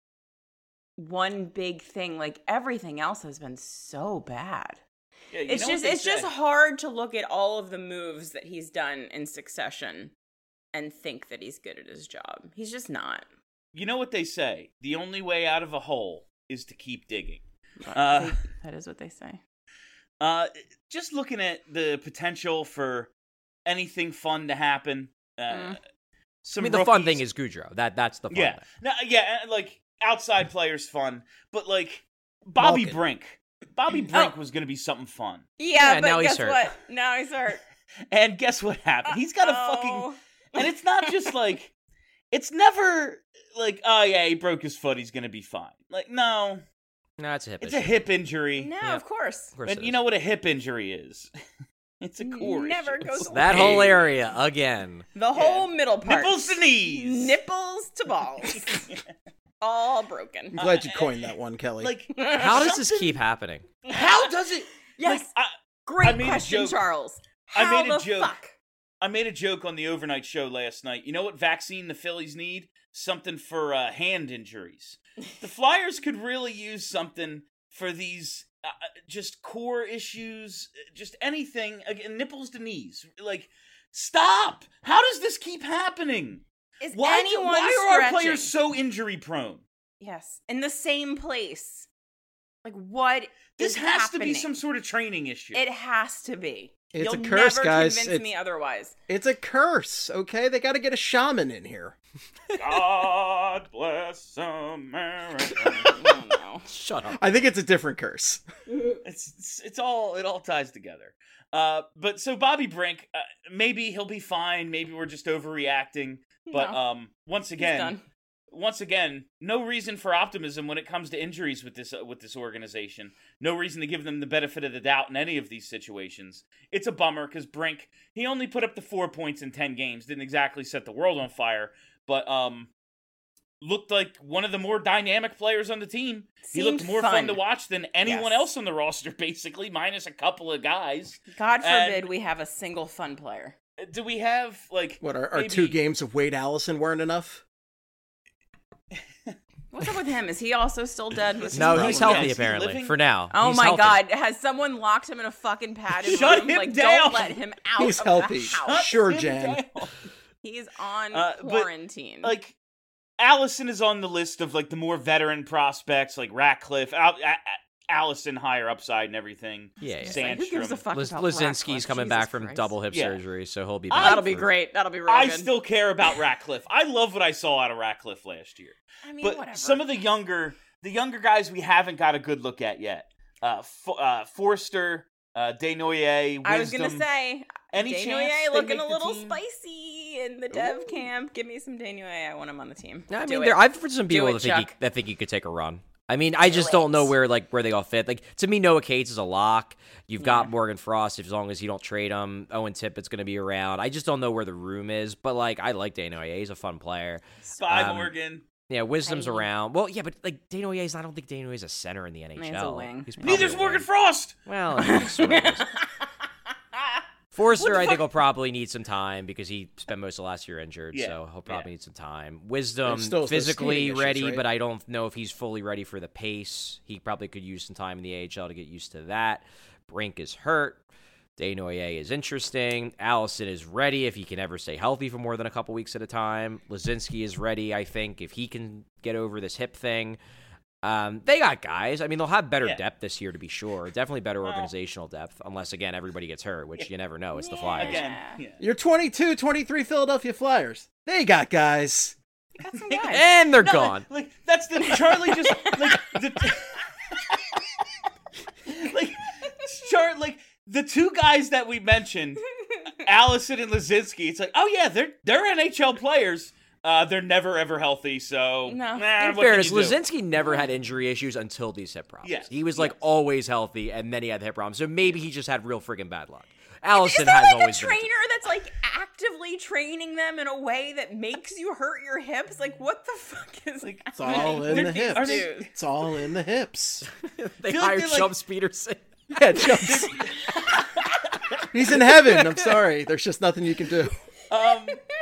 one big thing, like everything else has been so bad. Yeah, you It's know what just they it's just say. hard to look at all of the moves that he's done in succession and think that he's good at his job. He's just not. You know what they say? The only way out of a hole is to keep digging. But Uh, they- that is what they say. Uh, just looking at the potential for anything fun to happen. Uh, Mm. Some I mean, the fun rookies- thing is Goudreau. That that's the fun yeah, thing. no, yeah, and, like outside players fun, but like Bobby Malkin. Brink. Bobby Brink Oh. was going to be something fun, Yeah, Yeah, but now he's guess hurt. what? Now he's hurt. and guess what happened? He's got a Uh-oh. fucking, and it's not just like, it's never like, oh yeah, he broke his foot, he's going to be fine. Like, no, No, it's a hip it's issue. a hip injury, No, Yeah. of course. Of course and it you is. know what a hip injury is? It's a core Never issue. goes that away. whole area again. The whole middle part. Nipples to knees. Nipples to balls. All broken. I'm glad you coined that one, Kelly. Like, How does this something- keep happening? How does it? Yes. Like, I, Great I made a question, joke- Charles. I How made a the joke. fuck? I made a joke on the overnight show last night. You know what vaccine the Phillies need? Something for uh, hand injuries. The Flyers could really use something for these uh, just core issues, just anything. Again, nipples to knees. Like, stop! How does this keep happening? Is Why, do, anyone why are our stretching? players so injury prone? Yes, in the same place. Like, what This is has happening? to be some sort of training issue. It has to be. It's You'll a curse, never guys. convince It's- me otherwise. It's a curse, okay? They got to get a shaman in here. God bless America. Oh, no. Shut up. I think it's a different curse. it's, it's it's all it all ties together. Uh, but so Bobby Brink, uh, maybe he'll be fine. Maybe we're just overreacting. But No. um, once He's again, done. once again, no reason for optimism when it comes to injuries with this uh, with this organization. No reason to give them the benefit of the doubt in any of these situations. It's a bummer because Brink, he only put up the four points in ten games. Didn't exactly set the world on fire, but um, looked like one of the more dynamic players on the team. he looked Seemed more fun. fun. to watch than anyone Yes. else on the roster, basically, minus a couple of guys. God And- forbid we have a single fun player. Uh, Do we have like What, our, our maybe- two games of Wade Allison weren't enough? What's up with him? Is he also still dead? With No, his he's problem? healthy Is he apparently living? for now. Oh He's my healthy. god, has someone locked him in a fucking padded Shut room? him like, down. don't let him out He's of healthy. the house. Sure, him Jan. down? He's on Uh, but, quarantine. Like, Allison is on the list of like the more veteran prospects, like Ratcliffe, Al- A- A- Allison higher upside and everything. Yeah, yeah. It's like, who gives a Sandstrom. fuck Liz- about Lizinski's Ratcliffe? coming Jesus back from Christ. double hip Yeah. surgery, so he'll be I- back. That'll be for- great. That'll be real I good. still care about Ratcliffe. I love what I saw out of Ratcliffe last year. I mean, But whatever. some of the younger, the younger guys we haven't got a good look at yet. Uh, Fo- uh Forster, uh, Desnoyers, Wisdom. I was gonna say, Any Desnoyers chance they looking make a the little team? spicy in the dev camp. Give me some Desnoyers. I want him on the team. No, I Do mean, it. there, I've heard some people it, that think he, Chuck. that think he could take a run. I mean, I just don't know it. where like where they all fit. Like to me, Noah Cates is a lock. You've got Yeah. Morgan Frost as long as you don't trade him. Owen Tippett's going to be around. I just don't know where the room is. But like, I like Desnoyers. He's a fun player. Spy Um, Morgan. Yeah, Wisdom's Hey. around. Well, yeah, but like Desnoyers, I don't think Desnoyers is a center in the N H L. He's a wing. He's Yeah. probably Neither's a Morgan wing. Frost. Well, he sort of is. Forster, What the I think, fuck? will probably need some time because he spent most of last year injured, Yeah, so he'll probably yeah. need some time. Wisdom, There's still those physically skating issues, ready, right? but I don't know if he's fully ready for the pace. He probably could use some time in the A H L to get used to that. Brink is hurt. Desnoyers is interesting. Allison is ready if he can ever stay healthy for more than a couple weeks at a time. Lizinski is ready, I think, if he can get over this hip thing. Um, they got guys. I mean, they'll have better Yeah. depth this year, to be sure. Definitely better Well- organizational depth, unless, again, everybody gets hurt, which you never know. It's the Flyers. Again, yeah. Your twenty-two twenty-three Philadelphia Flyers. They got guys. Got some guys. And they're No, gone. Like, like that's the Charlie just like the like Char like the two guys that we mentioned, Allison and Lazinski. It's like, oh yeah, they're they're N H L players. Uh, they're never ever healthy. So No. nah, In what fairness, can you do? Lazinski never had injury issues until these hip problems. Yes, He was like yes. always healthy, and then he had the hip problems. So maybe he just had real friggin' bad luck. Allison Is there has like a always been. trainer that's like actively training them in a way that makes you hurt your hips? Like, what the fuck is like? It's all in the hips. Are they- It's all in the hips. They feel like hired they're, like- Chumps Peterson. Yeah, jumps. He's in heaven. I'm sorry. There's just nothing you can do. Um,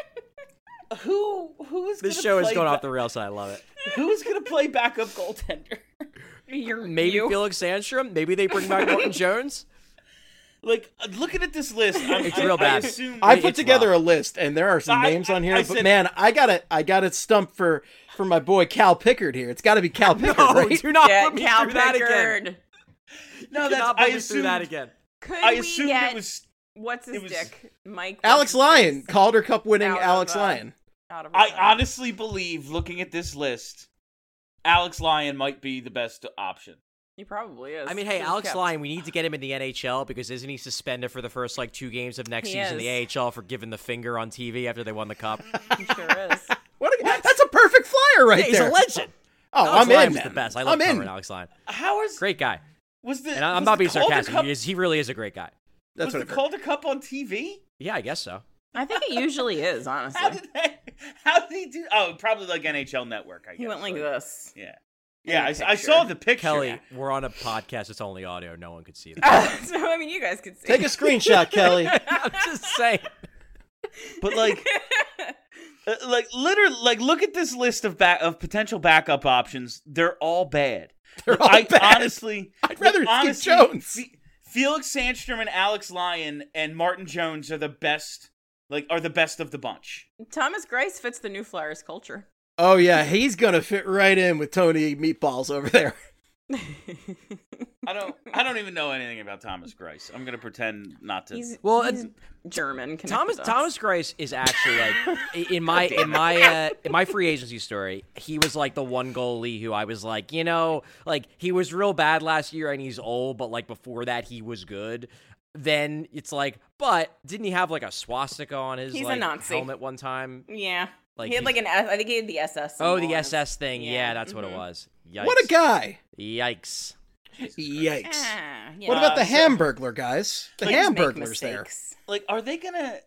who who is This gonna show is play going ba- off the rails, and I love it. Who is gonna play backup goaltender? You're, Maybe you. Felix Sandstrom. Maybe they bring back Morton Jones. Like, uh, looking at this list, I'm, It's I, real bad. I assume I It's put together rough. a list, and there are some I- names on I- here. I but said- man, I got it. I got it stumped for for my boy Cal Pickard here. It's got to be Cal Pickard, No, right? do not Yeah, put me Cal through that again. Pickard. no, Do that's not I put me through assumed that again. Could I we assumed get it was. what's his it was- dick? Mike. Alex what's his Lyon, face? Calder Cup winning Out of, Alex uh, Lyon. Out of I return. honestly believe, looking at this list, Alex Lyon might be the best option. He probably is. I mean, hey, He's Alex kept. Lyon, we need to get him in the N H L because isn't he suspended for the first like two games of next He season in the is. A H L for giving the finger on T V after they won the cup? He sure is. What? A, that's a perfect flyer right Yeah, he's there. a legend. Oh, Alex I'm Lyon in, was man. the best. I love I'm in. covering Alex Lyon. How is Great guy. was the? And I- I'm was not the being Calder sarcastic. Cup, He, is, he really is a great guy. That's was what the I've heard. Calder Cup on T V? Yeah, I guess so. I think it usually is, honestly. How did they, How did he do? Oh, probably like N H L Network. I guess. he went like this. Yeah, yeah. I, the I saw the picture. Kelly, we're on a podcast. It's only audio. No one could see that. so I mean, you guys could see. Take a screenshot, Kelly. I'm just saying. but like, uh, like literally, like look at this list of back of potential backup options. They're all bad. They're all I bad. honestly, I'd rather like, Steve honestly, Jones. Fe- Felix Sandstrom and Alex Lyon and Martin Jones are the best. Like, are the best of the bunch. Thomas Grice fits the New Flyers culture. Oh yeah, he's gonna fit right in with Tony Meatballs over there. I don't. I don't even know anything about Thomas Grice. I'm gonna pretend not to. He's Well, he's it's- German. connected Thomas dots. Thomas Grice is actually like i- in my in my uh, in my free agency story. He was like the one goalie who I was like, you know, like he was real bad last year and he's old, but like before that he was good. Then it's like, but didn't he have like a swastika on his He's a like, Nazi. helmet one time? Yeah. Like he had like he's- an S- I think he had the S S. Oh, symbol the on S his- S thing. Yeah, Yeah, that's what it mhm. was. Yikes. What a guy! Yikes. Yikes! Ah, yeah. What about the Uh, so- Hamburglar guys? The Like, Kids make Hamburglers there. mistakes. like, are they gonna?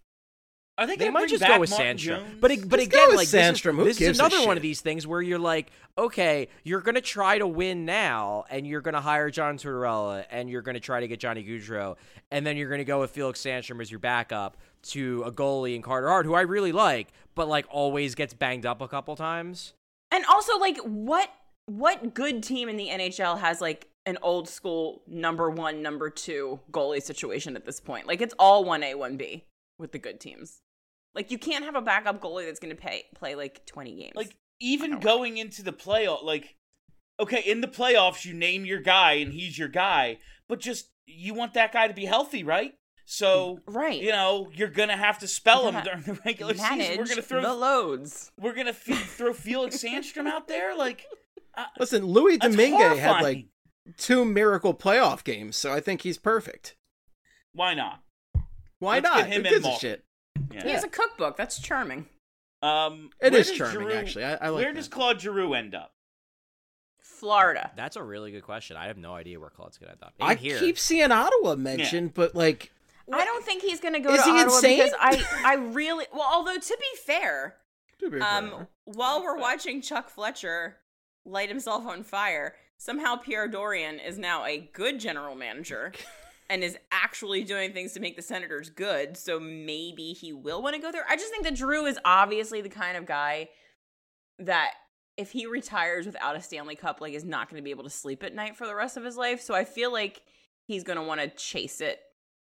Are they They gonna might bring just back go with Martin Sandstrom, Jones? but it, but Just go again, with like this, Sandstrom. Who is, this is gives a another one shit? of these things where you're like, okay, you're gonna try to win now, and you're gonna hire John Tortorella, and you're gonna try to get Johnny Gaudreau, and then you're gonna go with Felix Sandstrom as your backup to a goalie in Carter Hart, who I really like, but like always gets banged up a couple times. And also, like, what what good team in the N H L has like an old school number one, number two goalie situation at this point? Like, it's all one A, one B with the good teams. Like, you can't have a backup goalie that's going to pay play like twenty games. Like, even going into the playoff, like, okay, in the playoffs, you name your guy and he's your guy, but just you want that guy to be healthy, right? So, right, you know, you're gonna have to spell him Yeah. during the regular manage season. We're gonna throw the loads. we're gonna f- throw Felix Sandstrom out there, like. Uh, Listen, Louis that's Domingue had horrifying. like two miracle playoff games, so I think he's perfect. Why not? Why Let's not? get him Who and gives a Malkin. shit? Yeah. He has a cookbook. That's charming. Um, It where is does charming, Giroux- actually. I, I like where that. does Claude Giroux end up? Florida. That's a really good question. I have no idea where Claude's gonna end up. I In here. keep seeing Ottawa mentioned, but like, I don't think he's going to go Is to he Ottawa insane? because I, I really well. Although to be fair, to be um, fair. while we're watching Chuck Fletcher light himself on fire, somehow Pierre Dorian is now a good general manager and is actually doing things to make the Senators good. So maybe he will want to go there. I just think that Drew is obviously the kind of guy that if he retires without a Stanley Cup, like, is not going to be able to sleep at night for the rest of his life. So I feel like he's going to want to chase it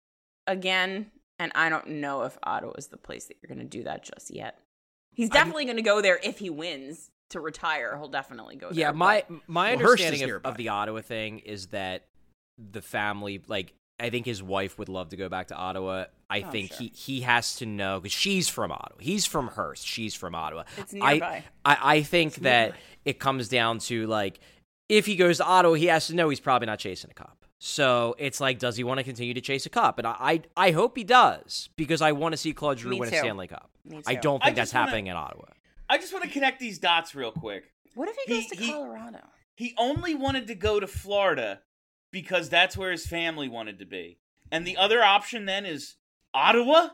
again. And I don't know if Ottawa is the place that you're going to do that just yet. He's definitely going to go there if he wins to retire. He'll definitely go there. Yeah, my but- my Well, Hearst is understanding of, nearby. of the Ottawa thing is that the family, like I think his wife would love to go back to Ottawa. I Oh, think sure. he, he has to know, because she's from Ottawa. He's from Hearst. She's from Ottawa. It's I, nearby. I, I think that it comes down to, like, if he goes to Ottawa, he has to know he's probably not chasing a cup. So it's like, does he want to continue to chase a cup? And I I, I hope he does, because I want to see Claude Giroux Me win too. a Stanley Cup. Me I too. don't I think that's just wanna- happening in Ottawa. I just want to connect these dots real quick. What if he goes He- to he- Colorado? He only wanted to go to Florida because that's where his family wanted to be. And the other option then is Ottawa?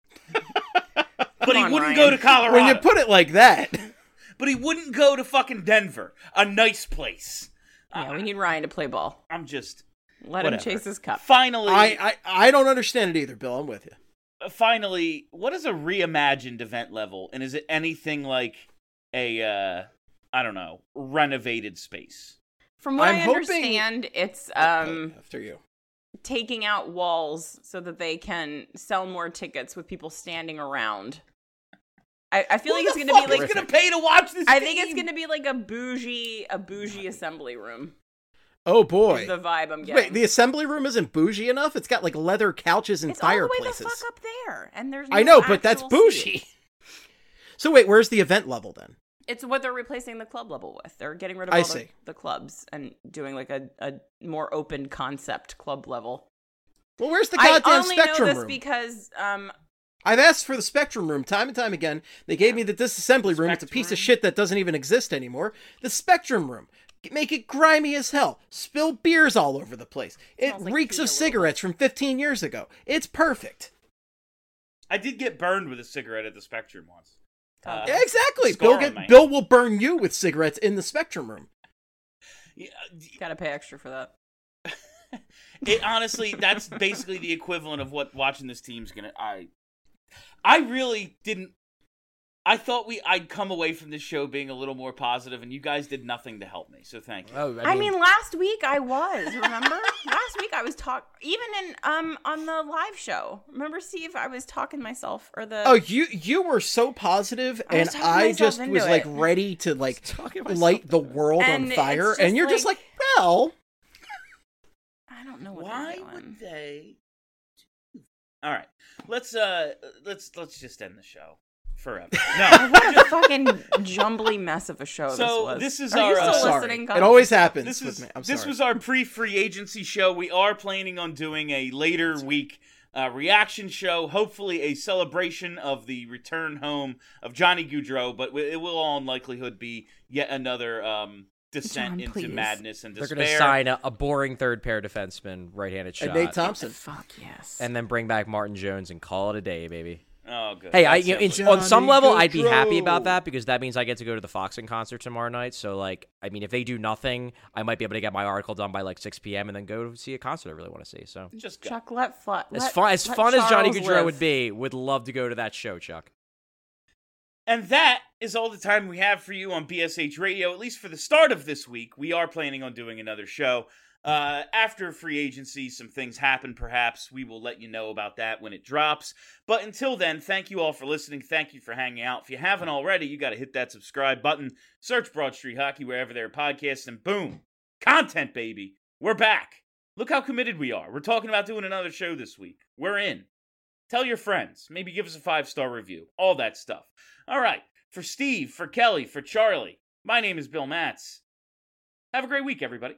But he on, wouldn't Ryan. go to Colorado. When you put it like that, But he wouldn't go to fucking Denver, a nice place. Yeah, we need Ryan to play ball. I'm just Let whatever. him chase his cup. Finally, I, I I don't understand it either, Bill. I'm with you. finally, what is a reimagined event level? And is it anything like a, uh, I don't know, renovated space? From what I'm I hoping- understand, it's um After you. taking out walls so that they can sell more tickets with people standing around. I, I feel Who like it's the gonna fuck be is like gonna pay to watch this I think game? it's gonna be like a bougie a bougie assembly room. Oh Is boy. the vibe I'm getting. Wait, the assembly room isn't bougie enough? It's got like leather couches and it's all the way fireplaces. the fuck up there, and there's I no know, but that's actual bougie. seating. So wait, where's the event level then? It's what they're replacing the club level with. They're getting rid of I all the, see. the clubs and doing like a, a more open concept club level. Well, where's the I goddamn only know Spectrum this room? because um, I've asked for the Spectrum room time and time again. They gave me the disassembly room. It's a piece of Spectrum. shit that doesn't even exist anymore. The Spectrum room. Make it grimy as hell. Spill beers all over the place. It Smells like reeks pee a of little cigarettes from fifteen years ago. It's perfect. I did get burned with a cigarette at the Spectrum once. Uh, Yeah, exactly. scar Bill, on get, my Bill will burn you with cigarettes in the Spectrum room. yeah, gotta pay extra for that. it honestly, that's basically the equivalent of what watching this team's gonna. I, I really didn't. I thought we I'd come away from this show being a little more positive, and you guys did nothing to help me. So thank you. Oh, I mean, last week I was, remember? Last week I was talk even in um on the live show. Remember, Steve? I was talking myself or the Oh, you you were so positive, I was and talking I myself just into was like it. ready to like Talking myself light the into it. world And on it's fire, just and you're just like- like, well, I don't know what Why they're doing. would they? All right, let's uh, let's let's just end the show forever. No, What a fucking jumbly mess of a show this So, was. this is Are you our, uh, still sorry. listening? It Colin? always happens this with is me. I'm this sorry. was our pre-free agency show. We are planning on doing a later week uh, reaction show, hopefully a celebration of the return home of Johnny Gaudreau, but it will all in likelihood be yet another um, descent John, into please. madness and They're despair. going to sign a, a boring third pair defenseman, right-handed shot, and Nate Thompson. Fuck yes. and then bring back Martin Jones and call it a day, baby. Oh, good. Hey, I, That you know, in, sounds- on some Johnny level, I'd be happy Gaudreau. about that because that means I get to go to the Foxen concert tomorrow night. So, like, I mean, if they do nothing, I might be able to get my article done by like six p.m. and then go see a concert I really want to see. So, just go. Chuck, let fly. as let- fun as let fun as Johnny Charles Gaudreau live. would be, would love to go to that show, Chuck. And that is all the time we have for you on B S H Radio, at least for the start of this week. We are planning on doing another show. Uh, after free agency, some things happen, perhaps. We will let you know about that when it drops. But until then, thank you all for listening. Thank you for hanging out. If you haven't already, you got to hit that subscribe button. Search Broad Street Hockey wherever there are podcasts, and boom, content, baby. We're back. Look how committed we are. We're talking about doing another show this week. We're in. Tell your friends. Maybe give us a five-star review. All that stuff. All right. For Steve, for Kelly, for Charlie, my name is Bill Matz. Have a great week, everybody.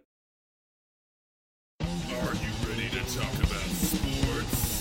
Are you ready to talk about sports?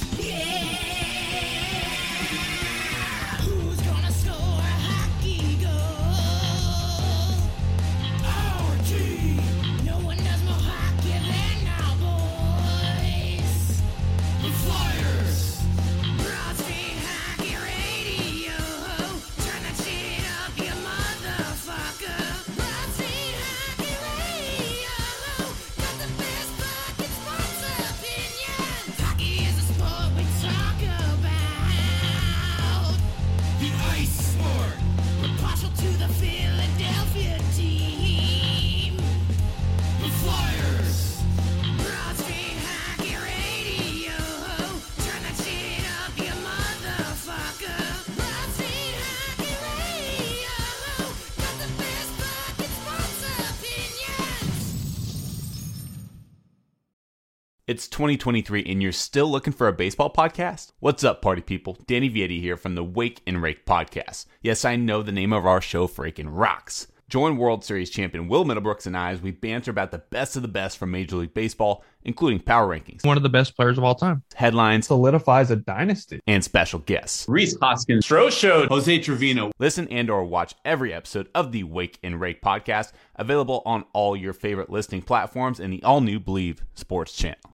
Who's gonna score a hockey goal? Our team. No one does more hockey than our boys. The Flyers. Broad Street Hockey Radio. Turn that shit up, you motherfucker. Broad Street Hockey Radio. Got the best fucking sports opinions. Hockey is a sport we talk about. The ice sport. We're partial to the Philadelphia team. The Flyers. Broad Street Hockey Radio. Turn that shit up, you motherfucker. Broad Street Hockey Radio. Got the best fucking sports opinions. It's twenty twenty-three and you're still looking for a baseball podcast? What's up, party people? Danny Vietti here from the Wake and Rake podcast. Yes, I know the name of our show freaking rocks. Join World Series champion Will Middlebrooks and I as we banter about the best of the best from Major League Baseball, including power rankings, one of the best players of all time, headlines, solidifies a dynasty, and special guests. Rhys Hoskins, Stro Show, Jose Trevino. Listen and or watch every episode of the Wake and Rake podcast, available on all your favorite listening platforms and the all-new Believe Sports channel.